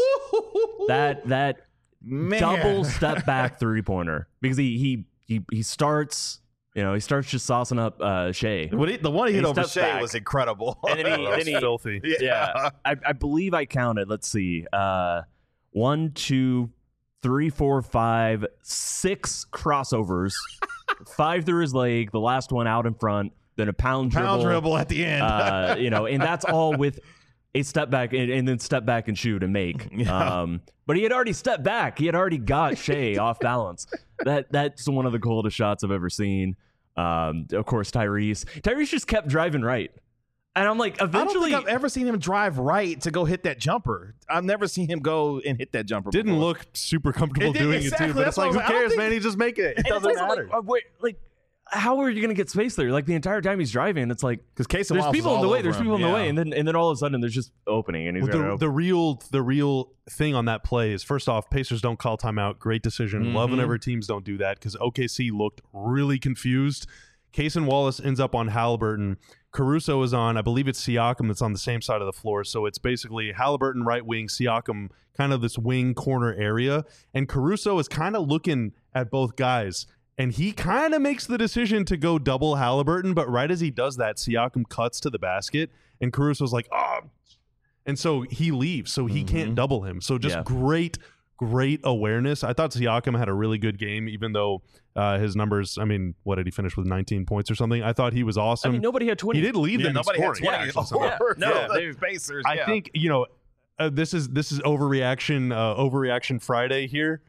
that that man. double step back three pointer because he he he he starts. You know, he starts just saucing up uh, Shea. What he, the one he hit over Shea back. was incredible. And then he, then he filthy. Yeah, yeah. I, I believe I counted. Let's see, uh, one, two, three, four, five, six crossovers, five through his leg. The last one out in front. Then a pound dribble, pound dribble at the end. uh, you know, and that's all with a step back and, and then step back and shoot and make. Yeah. Um, but he had already stepped back. He had already got Shea off balance. That that's one of the coldest shots I've ever seen. Um, of course, Tyrese. Tyrese just kept driving right. And I'm like, eventually... I don't think I've ever seen him drive right to go hit that jumper. I've never seen him go and hit that jumper Didn't before. look super comfortable It did, doing exactly. it, too. But That's it's like, who what I was like, I cares, don't man? think- He just make it. It And doesn't it's also matter. Like, uh, wait, like, how are you going to get space there? Like, the entire time he's driving, it's like... Because Cason There's Wallace people was in the all way. over There's him. people in the Yeah. way. And then and then all of a sudden, there's just opening. And he's Well, going the, the real the real thing on that play is, first off, Pacers don't call timeout. Great decision. Mm-hmm. Love whenever teams don't do that because O K C looked really confused. Cason Wallace ends up on Halliburton. Caruso is on, I believe it's Siakam that's on the same side of the floor. So it's basically Halliburton right wing, Siakam kind of this wing corner area. And Caruso is kind of looking at both guys. And he kind of makes the decision to go double Halliburton. But right as he does that, Siakam cuts to the basket. And Caruso's like, oh. And so he leaves. So he Mm-hmm. can't double him. So just Yeah. great, great awareness. I thought Siakam had a really good game, even though uh, his numbers, I mean, what did he finish with, nineteen points or something? I thought he was awesome. I mean, nobody had twenty. He did lead Yeah, them in nobody had scoring. twenty actually, somehow. over No, yeah, they- the Pacers. I yeah. think, you know, uh, this is this is overreaction, uh, overreaction Friday here.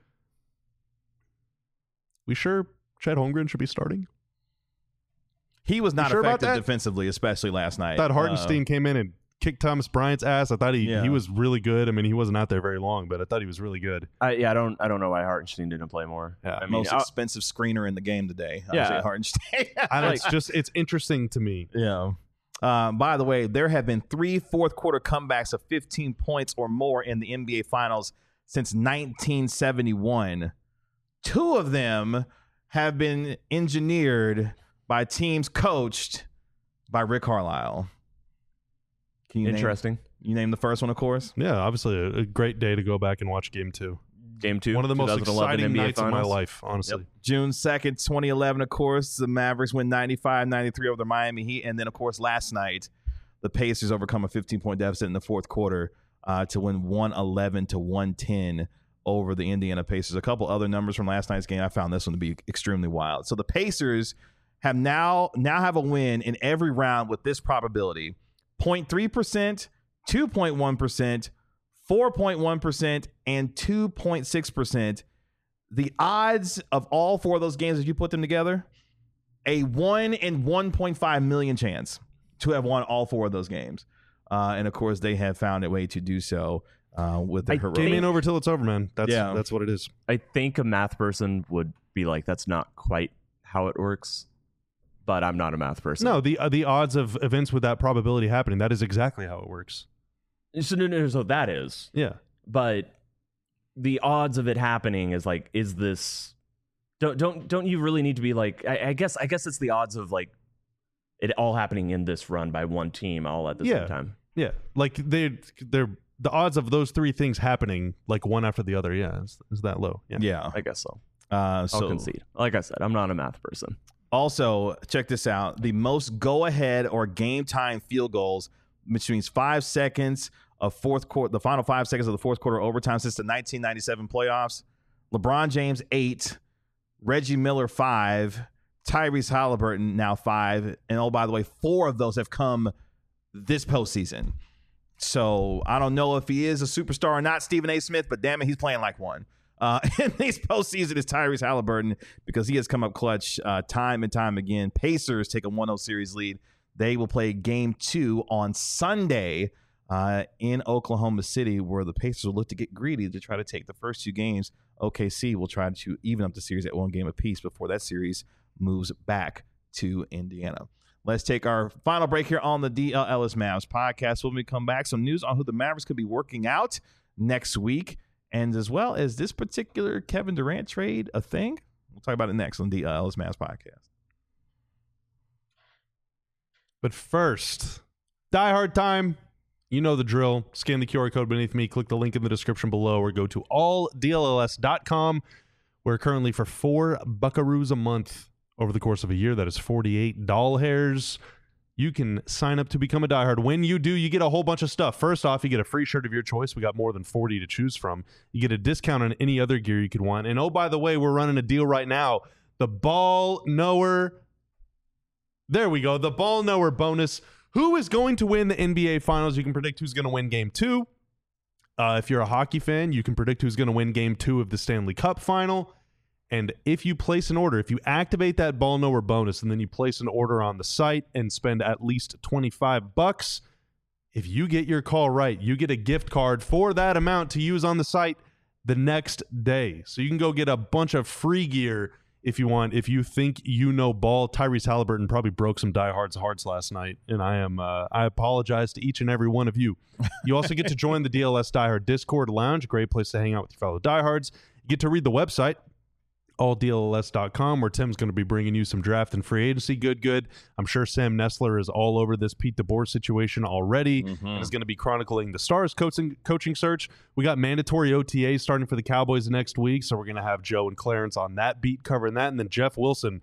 We sure Chet Holmgren should be starting? he was not You sure about effective that? defensively, especially last night. I thought Uh, Hartenstein came in and kicked Thomas Bryant's ass. I thought he, Yeah. he was really good. I mean, he wasn't out there very long, but I thought he was really good. I, yeah, I don't I don't know why Hartenstein didn't play more. Yeah. I mean, most I- expensive screener in the game today. Yeah. Isaiah Hartenstein. And it's just, it's interesting to me. Yeah. Um, by the way, there have been three fourth quarter comebacks of fifteen points or more in the N B A Finals since nineteen seventy-one. Two of them have been engineered by teams coached by Rick Carlisle. Can you interesting. Name, you name the first one, of course? Yeah, obviously a, a great day to go back and watch game two. Game two. One of the most twenty eleven exciting N B A nights of my Finals. life, honestly. June second, twenty eleven, of course, the Mavericks win ninety-five ninety-three over the Miami Heat. And then, of course, last night, the Pacers overcome a fifteen-point deficit in the fourth quarter uh, to win one eleven to one ten over the Indiana Pacers. A couple other numbers from last night's game. I found this one to be extremely wild. So the Pacers have now now have a win in every round with this probability: zero point three percent, two point one percent, four point one percent, and two point six percent. The odds of all four of those games, as you put them together, a one in one point five million chance to have won all four of those games. Uh, and of course, they have found a way to do so uh, with their I heroic. Game ain't over till it's over, man. That's Yeah. that's what it is. I think a math person would be like, that's not quite how it works. But I'm not a math person. No, the uh, the odds of events with that probability happening, that is exactly how it works. So, no, no, so that is. Yeah. But the odds of it happening is like, is this? Don't don't don't you really need to be like? I, I guess I guess it's the odds of like it all happening in this run by one team all at the Yeah. same time. Yeah. Like they they're the odds of those three things happening like one after the other, yeah, is, is that low. Yeah. Yeah. I guess so. Uh, I'll so concede. Like I said, I'm not a math person. also, check this out. The most go-ahead or game-time field goals, which means five seconds of fourth quarter, the final five seconds of the fourth quarter overtime since the nineteen ninety-seven playoffs. LeBron James, eight. Reggie Miller, five. Tyrese Halliburton, now five. And oh, by the way, four of those have come this postseason. So I don't know if he is a superstar or not, Stephen A. Smith, but damn it, he's playing like one. Uh, in this postseason is Tyrese Halliburton because he has come up clutch uh, time and time again. Pacers take a one oh series lead. They will play game two on Sunday uh, in Oklahoma City, where the Pacers will look to get greedy to try to take the first two games. O K C will try to even up the series at one game apiece before that series moves back to Indiana. Let's take our final break here on the D L Ellis Mavs podcast. When we come back, some news on who the Mavericks could be working out next week, and as well as this particular Kevin Durant trade a thing. We'll talk about it next on the D L Ellis Mavs podcast. But first, Die Hard time. You know the drill. Scan the Q R code beneath me. Click the link in the description below or go to all D L L S dot com. We're currently for four buckaroos a month over the course of a year. That is forty-eight doll hairs. You can sign up to become a diehard. When you do, you get a whole bunch of stuff. First off, you get a free shirt of your choice. We got more than forty to choose from. You get a discount on any other gear you could want. And oh, by the way, we're running a deal right now. The Ball Knower. There we go. The Ball Knower bonus. Who is going to win the N B A Finals? You can predict who's going to win Game two. Uh, if you're a hockey fan, you can predict who's going to win Game two of the Stanley Cup Final. And if you place an order, if you activate that Ball Knower bonus and then you place an order on the site and spend at least twenty-five bucks, if you get your call right, you get a gift card for that amount to use on the site the next day. So you can go get a bunch of free gear if you want. If you think you know ball, Tyrese Halliburton probably broke some diehards' hearts last night, and I am uh, I apologize to each and every one of you. You also get to join the D L S Diehard Discord Lounge, a great place to hang out with your fellow diehards. You get to read the website, all D L S dot com, where Tim's going to be bringing you some draft and free agency good good. I'm sure Sam Nestler is all over this Pete DeBoer situation already mm-hmm. and is going to be chronicling the Stars coaching coaching search. We got mandatory O T As starting for the Cowboys next week, so we're going to have Joe and Clarence on that beat covering that. And then Jeff Wilson,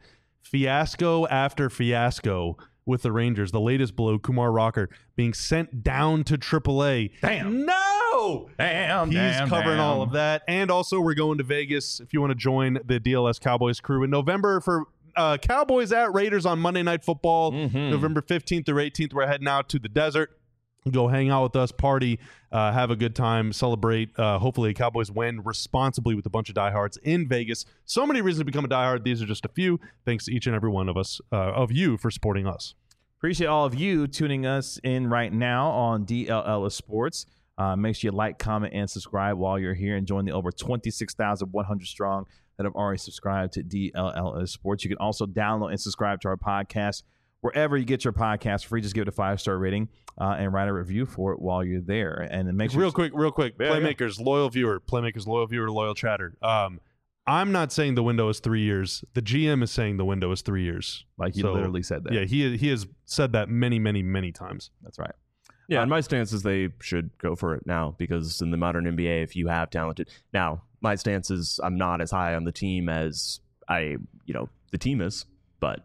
fiasco after fiasco with the Rangers. The latest blow, Kumar Rocker being sent down to triple A. Damn. No! Damn, He's damn, covering damn. all of that. And also, we're going to Vegas if you want to join the D L S Cowboys crew in November for uh, Cowboys at Raiders on Monday Night Football. Mm-hmm. November fifteenth through eighteenth, we're heading out to the desert. Go hang out with us, party, uh, have a good time, celebrate. Uh, hopefully, Cowboys win responsibly with a bunch of diehards in Vegas. So many reasons to become a diehard. These are just a few. Thanks to each and every one of us, uh, of you, for supporting us. Appreciate all of you tuning us in right now on D L L S Sports. Uh, make sure you like, comment, and subscribe while you're here and join the over twenty-six thousand one hundred strong that have already subscribed to D L L S Sports. You can also download and subscribe to our podcast wherever you get your podcast free. Just give it a five-star rating uh, and write a review for it while you're there. And then make sure real quick, real quick, yeah, Playmakers, yeah. loyal viewer, Playmakers, loyal viewer, loyal chatter. Um, I'm not saying the window is three years. The G M is saying the window is three years. Like he so, literally said that. Yeah, he he has said that many, many, many times. That's right. Yeah, uh, and my stance is they should go for it now because in the modern N B A, if you have talented now, my stance is I'm not as high on the team as I, you know, the team is, but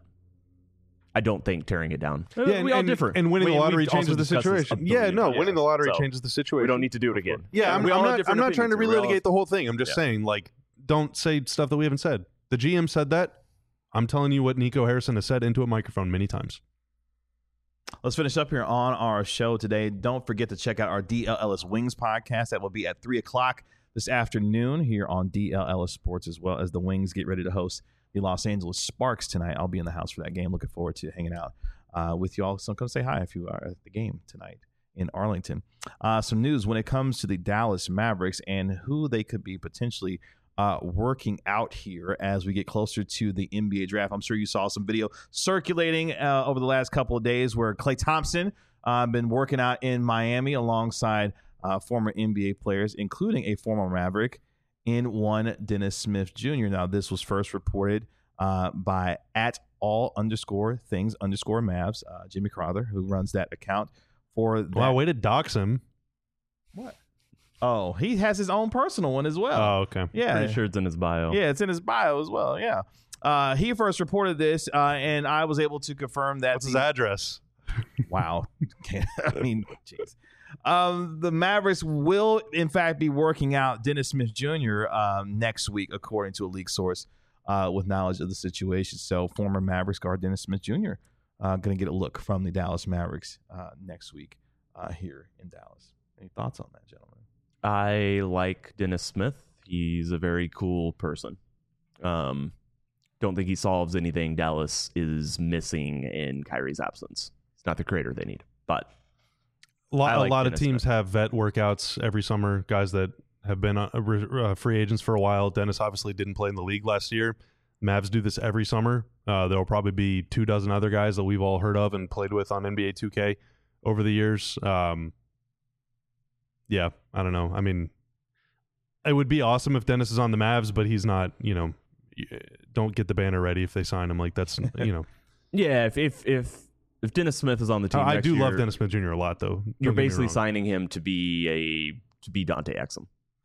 I don't think tearing it down. Yeah, we and, all and, differ. and winning we, the lottery we've also changes the discussed this situation. a Yeah, billion no, times. winning the lottery So, changes the situation. We don't need to do it again. Yeah, I'm, we I'm all have not. different I'm not trying to opinions. We all- relitigate the whole thing. I'm just Yeah. saying, like, don't say stuff that we haven't said. The G M said that. I'm telling you what Nico Harrison has said into a microphone many times. Let's finish up here on our show today. Don't forget to check out our D L L S Wings podcast. That will be at three o'clock this afternoon here on D L L S Sports, as well as the Wings get ready to host the Los Angeles Sparks tonight. I'll be in the house for that game. Looking forward to hanging out uh, with you all. So come say hi if you are at the game tonight in Arlington. Uh, some news when it comes to the Dallas Mavericks and who they could be potentially Uh, working out here as we get closer to the N B A draft. I'm sure you saw some video circulating uh, over the last couple of days where Klay Thompson uh, been working out in Miami alongside uh, former N B A players, including a former Maverick in one Dennis Smith Junior Now, this was first reported uh, by at all underscore things underscore Mavs, uh, Jimmy Crowther, who runs that account for that. Wow, way to dox him. What? Oh, he has his own personal one as well. Oh, okay. Yeah. Pretty sure it's in his bio. Yeah, it's in his bio as well. Yeah. Uh, he first reported this, uh, and I was able to confirm that. What's his the, address? Wow. I mean, jeez. Um, the Mavericks will, in fact, be working out Dennis Smith Junior Um, next week, according to a leak source uh, with knowledge of the situation. So, former Mavericks guard Dennis Smith Junior Uh, going to get a look from the Dallas Mavericks uh, next week uh, here in Dallas. Any thoughts on that, gentlemen? I like Dennis Smith. He's a very cool person. Um, don't think he solves anything Dallas is missing in Kyrie's absence. He's not the creator they need, but A lot, I like a lot of Dennis teams Smith. have vet workouts every summer. Guys that have been uh, uh, free agents for a while. Dennis obviously didn't play in the league last year. Mavs do this every summer. Uh, there will probably be two dozen other guys that we've all heard of and played with on N B A two K over the years. Um, yeah, I don't know. I mean, it would be awesome if Dennis is on the Mavs, but he's not. You know, don't get the banner ready if they sign him. Like that's you know. Yeah, if if if if Dennis Smith is on the team, I next do year, love Dennis Smith Junior a lot, though. Don't You're get me basically wrong. signing him to be a to be Dante Exum.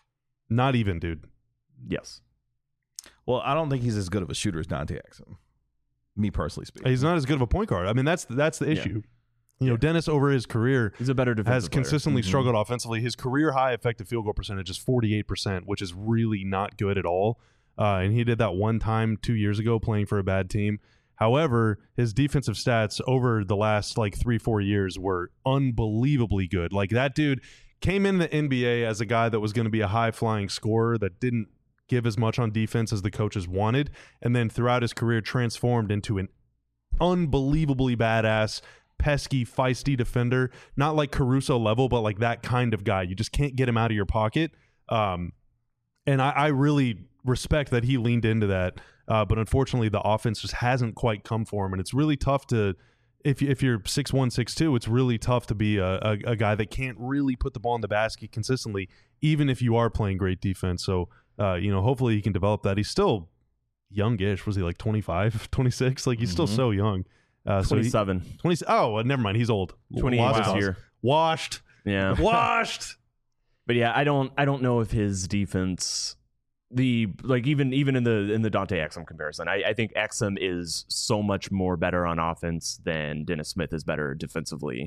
Not even, dude. Yes. Well, I don't think he's as good of a shooter as Dante Exum. Me personally speaking. He's not as good of a point guard. I mean, that's that's the issue. You know, Yeah. Dennis over his career He's a better defensive has player. consistently Mhm. struggled offensively. His career high effective field goal percentage is forty-eight percent, which is really not good at all. Uh, and he did that one time two years ago playing for a bad team. However, his defensive stats over the last like three, four years were unbelievably good. Like that dude came in the N B A as a guy that was going to be a high-flying scorer that didn't give as much on defense as the coaches wanted, and then throughout his career transformed into an unbelievably badass, pesky, feisty defender. Not like Caruso level, but like that kind of guy. You just can't get him out of your pocket. Um, and I, I really respect that he leaned into that. Uh, but unfortunately, the offense just hasn't quite come for him, and it's really tough to. If you, if you're six one, six two, it's really tough to be a, a, a guy that can't really put the ball in the basket consistently, even if you are playing great defense. So, uh, you know, hopefully he can develop that. He's still youngish. Was he like twenty-five, twenty-six? Like he's still Mhm. so young. Uh, so he- twenty-seven. twenty. Oh, uh, never mind. He's old. twenty-eight Lost this cause. year. Washed. Yeah. Washed. But yeah, I don't I don't know if his defense the like even even in the in the Dante Exum comparison, I, I think Exum is so much more better on offense than Dennis Smith is better defensively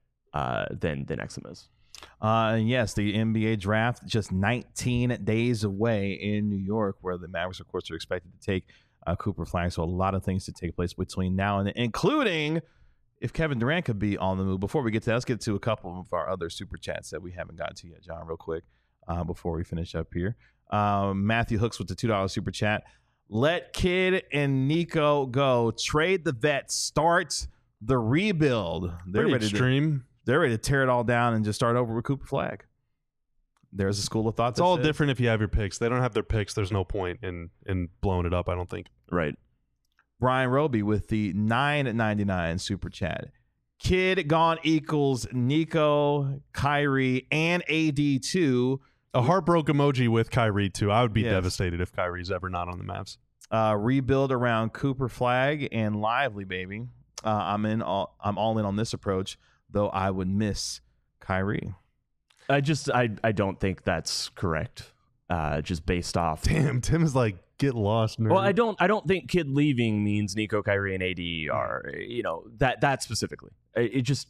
uh, than than Exum is. Uh, and yes, the N B A draft just nineteen days away in New York, where the Mavericks, of course, are expected to take uh, Cooper Flag. So a lot of things to take place between now and then, including if Kevin Durant could be on the move. Before we get to that, let's get to a couple of our other super chats that we haven't gotten to yet, John, real quick, uh, before we finish up here. Um, Matthew Hooks with the two dollars super chat. Let Kid and Nico go. Trade the vets. Start the rebuild. They're Pretty ready to extreme. they're ready to tear it all down and just start over with Cooper Flag. There's a school of thought. It's all different if you have your picks. They don't have their picks. There's no point in in blowing it up, I don't think. Right. Brian Roby with the nine ninety-nine super chat. Kid gone equals Nico, Kyrie, and A D two. A heartbroke emoji with Kyrie, too. I would be Yes. devastated if Kyrie's ever not on the Mavs. Uh, rebuild around Cooper Flag and Lively, baby. Uh, I'm in. All, I'm all in on this approach, though I would miss Kyrie. I just I I don't think that's correct. Uh, just based off. Damn, Tim is like, get lost, nerd. Well, I don't. I don't think Kid leaving means Nico, Kyrie, and A D are. You know that that specifically. It, it just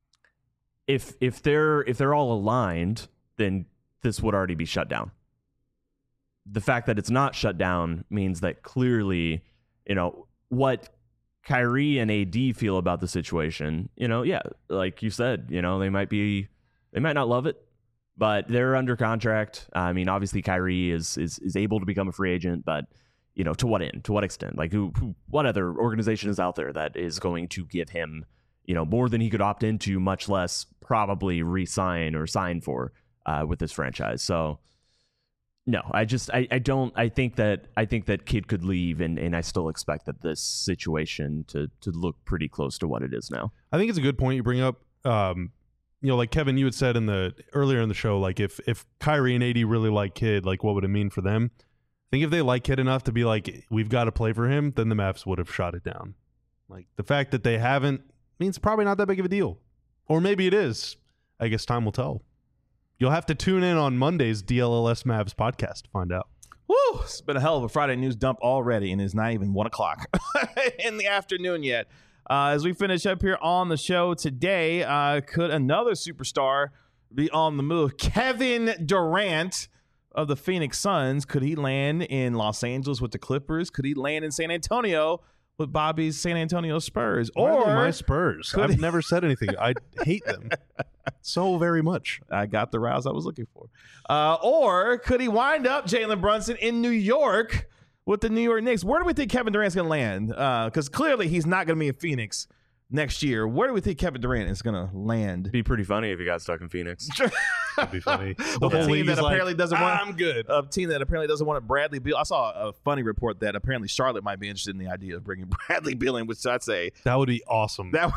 if if they're if they're all aligned, then this would already be shut down. The fact that it's not shut down means that clearly, you know, what Kyrie and A D feel about the situation. You know, yeah, like you said, you know, they might be, they might not love it, but they're under contract. I mean, obviously Kyrie is is is able to become a free agent, but you know, to what end, to what extent? Like, who, who what other organization is out there that is going to give him, you know, more than he could opt into, much less probably re-sign or sign for uh, with this franchise? So, no, I just I, I don't I think that I think that Kid could leave, and, and I still expect that this situation to to look pretty close to what it is now. I think it's a good point you bring up. Um, you know, like Kevin, you had said in the earlier in the show, like if if Kyrie and A D really like Kid, like what would it mean for them? I think if they like Kid enough to be like, we've got to play for him, then the Mavs would have shot it down. Like the fact that they haven't means probably not that big of a deal, or maybe it is. I guess time will tell. You'll have to tune in on Monday's D L L S Mavs podcast to find out. Woo! It's been a hell of a Friday news dump already, and it's not even one o'clock in the afternoon yet. Uh, as we finish up here on the show today, uh, could another superstar be on the move? Kevin Durant of the Phoenix Suns. Could he land in Los Angeles with the Clippers? Could he land in San Antonio with Bobby's San Antonio Spurs? Why are they Or my Spurs. could I've he- never said anything. I hate them so very much. I got the rouse I was looking for. Uh, or could he wind up Jalen Brunson in New York with the New York Knicks? Where do we think Kevin Durant's going to land? Because uh, clearly he's not going to be in Phoenix next year, where do we think Kevin Durant is going to land? It'd be pretty funny if he got stuck in Phoenix. That'd be funny. The With a whole team league that is apparently like, doesn't want. I'm good. A team that apparently doesn't want Bradley Beal. I saw a funny report that apparently Charlotte might be interested in the idea of bringing Bradley Beal in, which I'd say That would be awesome. that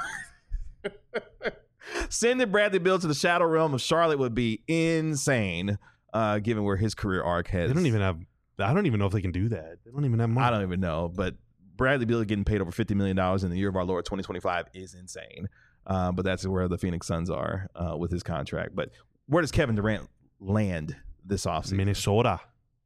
sending Bradley Beal to the shadow realm of Charlotte would be insane, uh, given where his career arc has. They don't even have. I don't even know if they can do that. They don't even have money. I don't even know, but Bradley Beal getting paid over fifty million dollars in the year of our Lord twenty twenty-five is insane. Uh, but that's where the Phoenix Suns are uh, with his contract. But where does Kevin Durant land this offseason? Minnesota.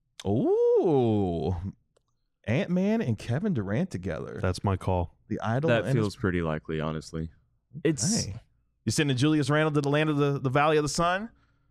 Ooh, Ant-Man and Kevin Durant together. That's my call. The idol. That and feels his- pretty likely, honestly. It's Hey. You sending Julius Randle to the land of the, the Valley of the Sun?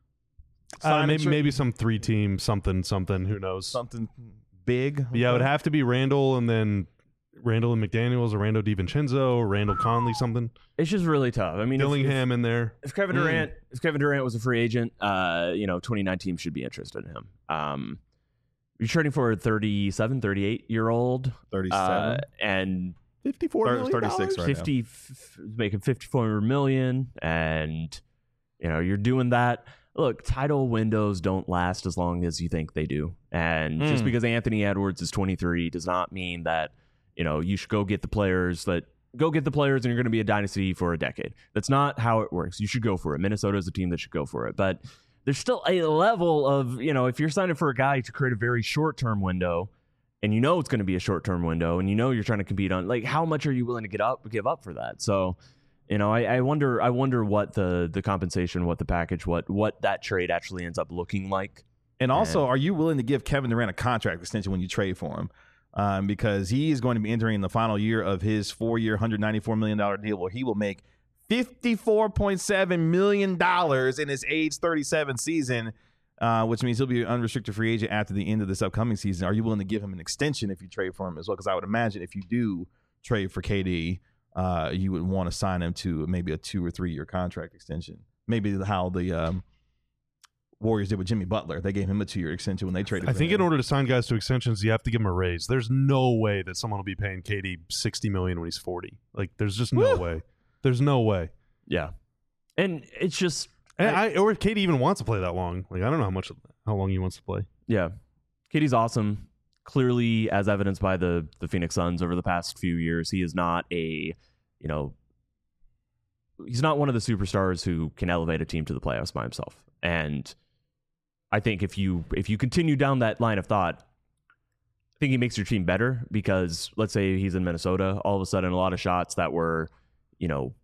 Uh, Sign maybe and maybe some three team something something. Who knows? something big. Yeah, it would have to be Randall and then Randall and McDaniels or Randall DiVincenzo or Randall Conley something. it's just really tough. I mean, if- Dillingham in there. If, if Kevin Mm. Durant, if Kevin Durant was a free agent, uh, you know, twenty-nine teams should be interested in him. Um, you're trading for a thirty-seven, thirty-eight year old, thirty-seven. uh, and fifty-four Thir- million thirty-six dollars? right fifty, f- making fifty-four million, and you know, you're doing that. Look, title windows don't last as long as you think they do, and just Mm. because Anthony Edwards is twenty-three does not mean that you know you should go get the players that go get the players and you're going to be a dynasty for a decade. That's not how it works. You should go for it. Minnesota is a team that should go for it, but there's still a level of, you know, if you're signing for a guy to create a very short-term window and you know it's going to be a short-term window and you know you're trying to compete on, like, how much are you willing to get up, give up for that? So, you know, I, I wonder, I wonder what the the compensation, what the package, what what that trade actually ends up looking like. And also, are you willing to give Kevin Durant a contract extension when you trade for him? Um, because he is going to be entering the final year of his four-year, one hundred ninety-four million dollars deal where he will make fifty-four point seven million dollars in his age thirty-seven season, uh, which means he'll be an unrestricted free agent after the end of this upcoming season. Are you willing to give him an extension if you trade for him as well? Because I would imagine if you do trade for K D, uh, you would want to sign him to maybe a two- or three-year contract extension. Maybe how the um, Warriors did with Jimmy Butler. They gave him a two-year extension when they traded I for think him. in order to sign guys to extensions, you have to give them a raise. There's no way that someone will be paying K D sixty million dollars when he's forty. Like, there's just no Woo! way. There's no way. Yeah, and it's just And I, or if K D even wants to play that long. Like, I don't know how much, how long he wants to play. yeah, K D's awesome. Clearly, as evidenced by the the Phoenix Suns over the past few years, he is not a, you know, he's not one of the superstars who can elevate a team to the playoffs by himself. And I think if you if you continue down that line of thought, I think he makes your team better because let's say he's in Minnesota, all of a sudden a lot of shots that were, you know,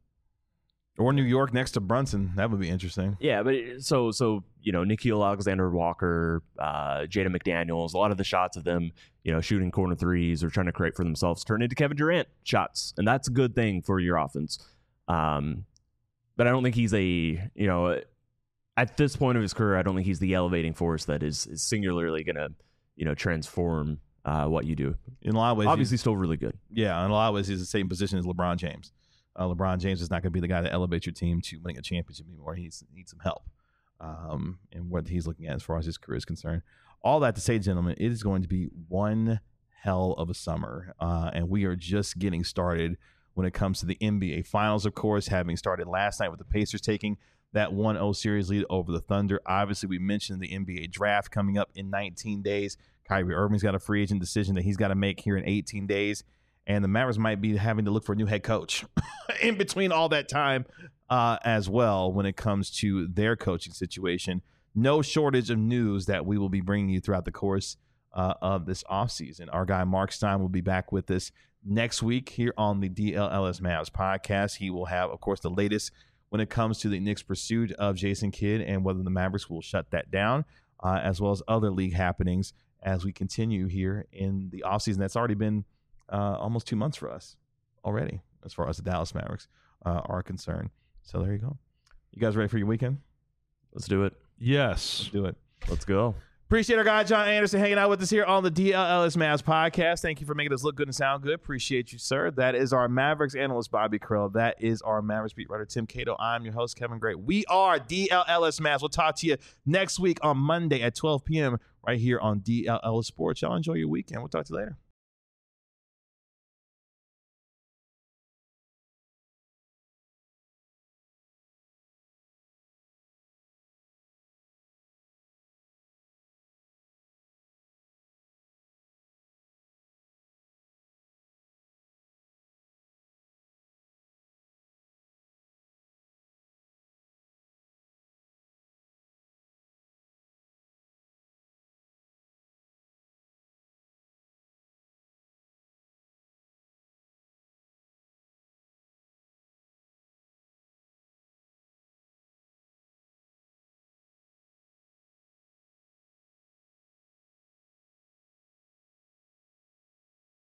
Or New York next to Brunson. That would be interesting. yeah, but it- so so you know, Nikhil Alexander-Walker, uh, Jada McDaniels, a lot of the shots of them, you know, shooting corner threes or trying to create for themselves turn into Kevin Durant shots, and that's a good thing for your offense. Um, but I don't think he's a, you know, at this point of his career, I don't think he's the elevating force that is, is singularly going to, you know, transform uh, what you do. In a lot of ways, Obviously, still really good. yeah, in a lot of ways, he's the same position as LeBron James. Uh, LeBron James is not going to be the guy to elevate your team to winning a championship anymore. He needs, needs some help um, in what he's looking at as far as his career is concerned. All that to say, gentlemen, it is going to be one hell of a summer, uh, and we are just getting started when it comes to the N B A Finals, of course, having started last night with the Pacers taking that one oh series lead over the Thunder. Obviously, we mentioned the N B A draft coming up in nineteen days. Kyrie Irving's got a free agent decision that he's got to make here in eighteen days. And the Mavericks might be having to look for a new head coach in between all that time uh, as well when it comes to their coaching situation. No shortage of news that we will be bringing you throughout the course uh, of this offseason. Our guy Mark Stein will be back with us next week here on the D L L S Mavs podcast. He will have, of course, the latest when it comes to the Knicks' pursuit of Jason Kidd and whether the Mavericks will shut that down, uh, as well as other league happenings as we continue here in the offseason. That's already been uh, almost two months for us already as far as the Dallas Mavericks uh, are concerned. So there you go. You guys ready for your weekend? Let's do it. Yes. Let's do it. Let's go. Appreciate our guy John Anderson hanging out with us here on the D L L S Mavs podcast. Thank you for making us look good and sound good. Appreciate you, sir. That is our Mavericks analyst, Bobby Krill. That is our Mavericks beat writer, Tim Cato. I'm your host, Kevin Gray. We are D L L S Mavs. We'll talk to you next week on Monday at twelve p.m. right here on D L L Sports. Y'all enjoy your weekend. We'll talk to you later.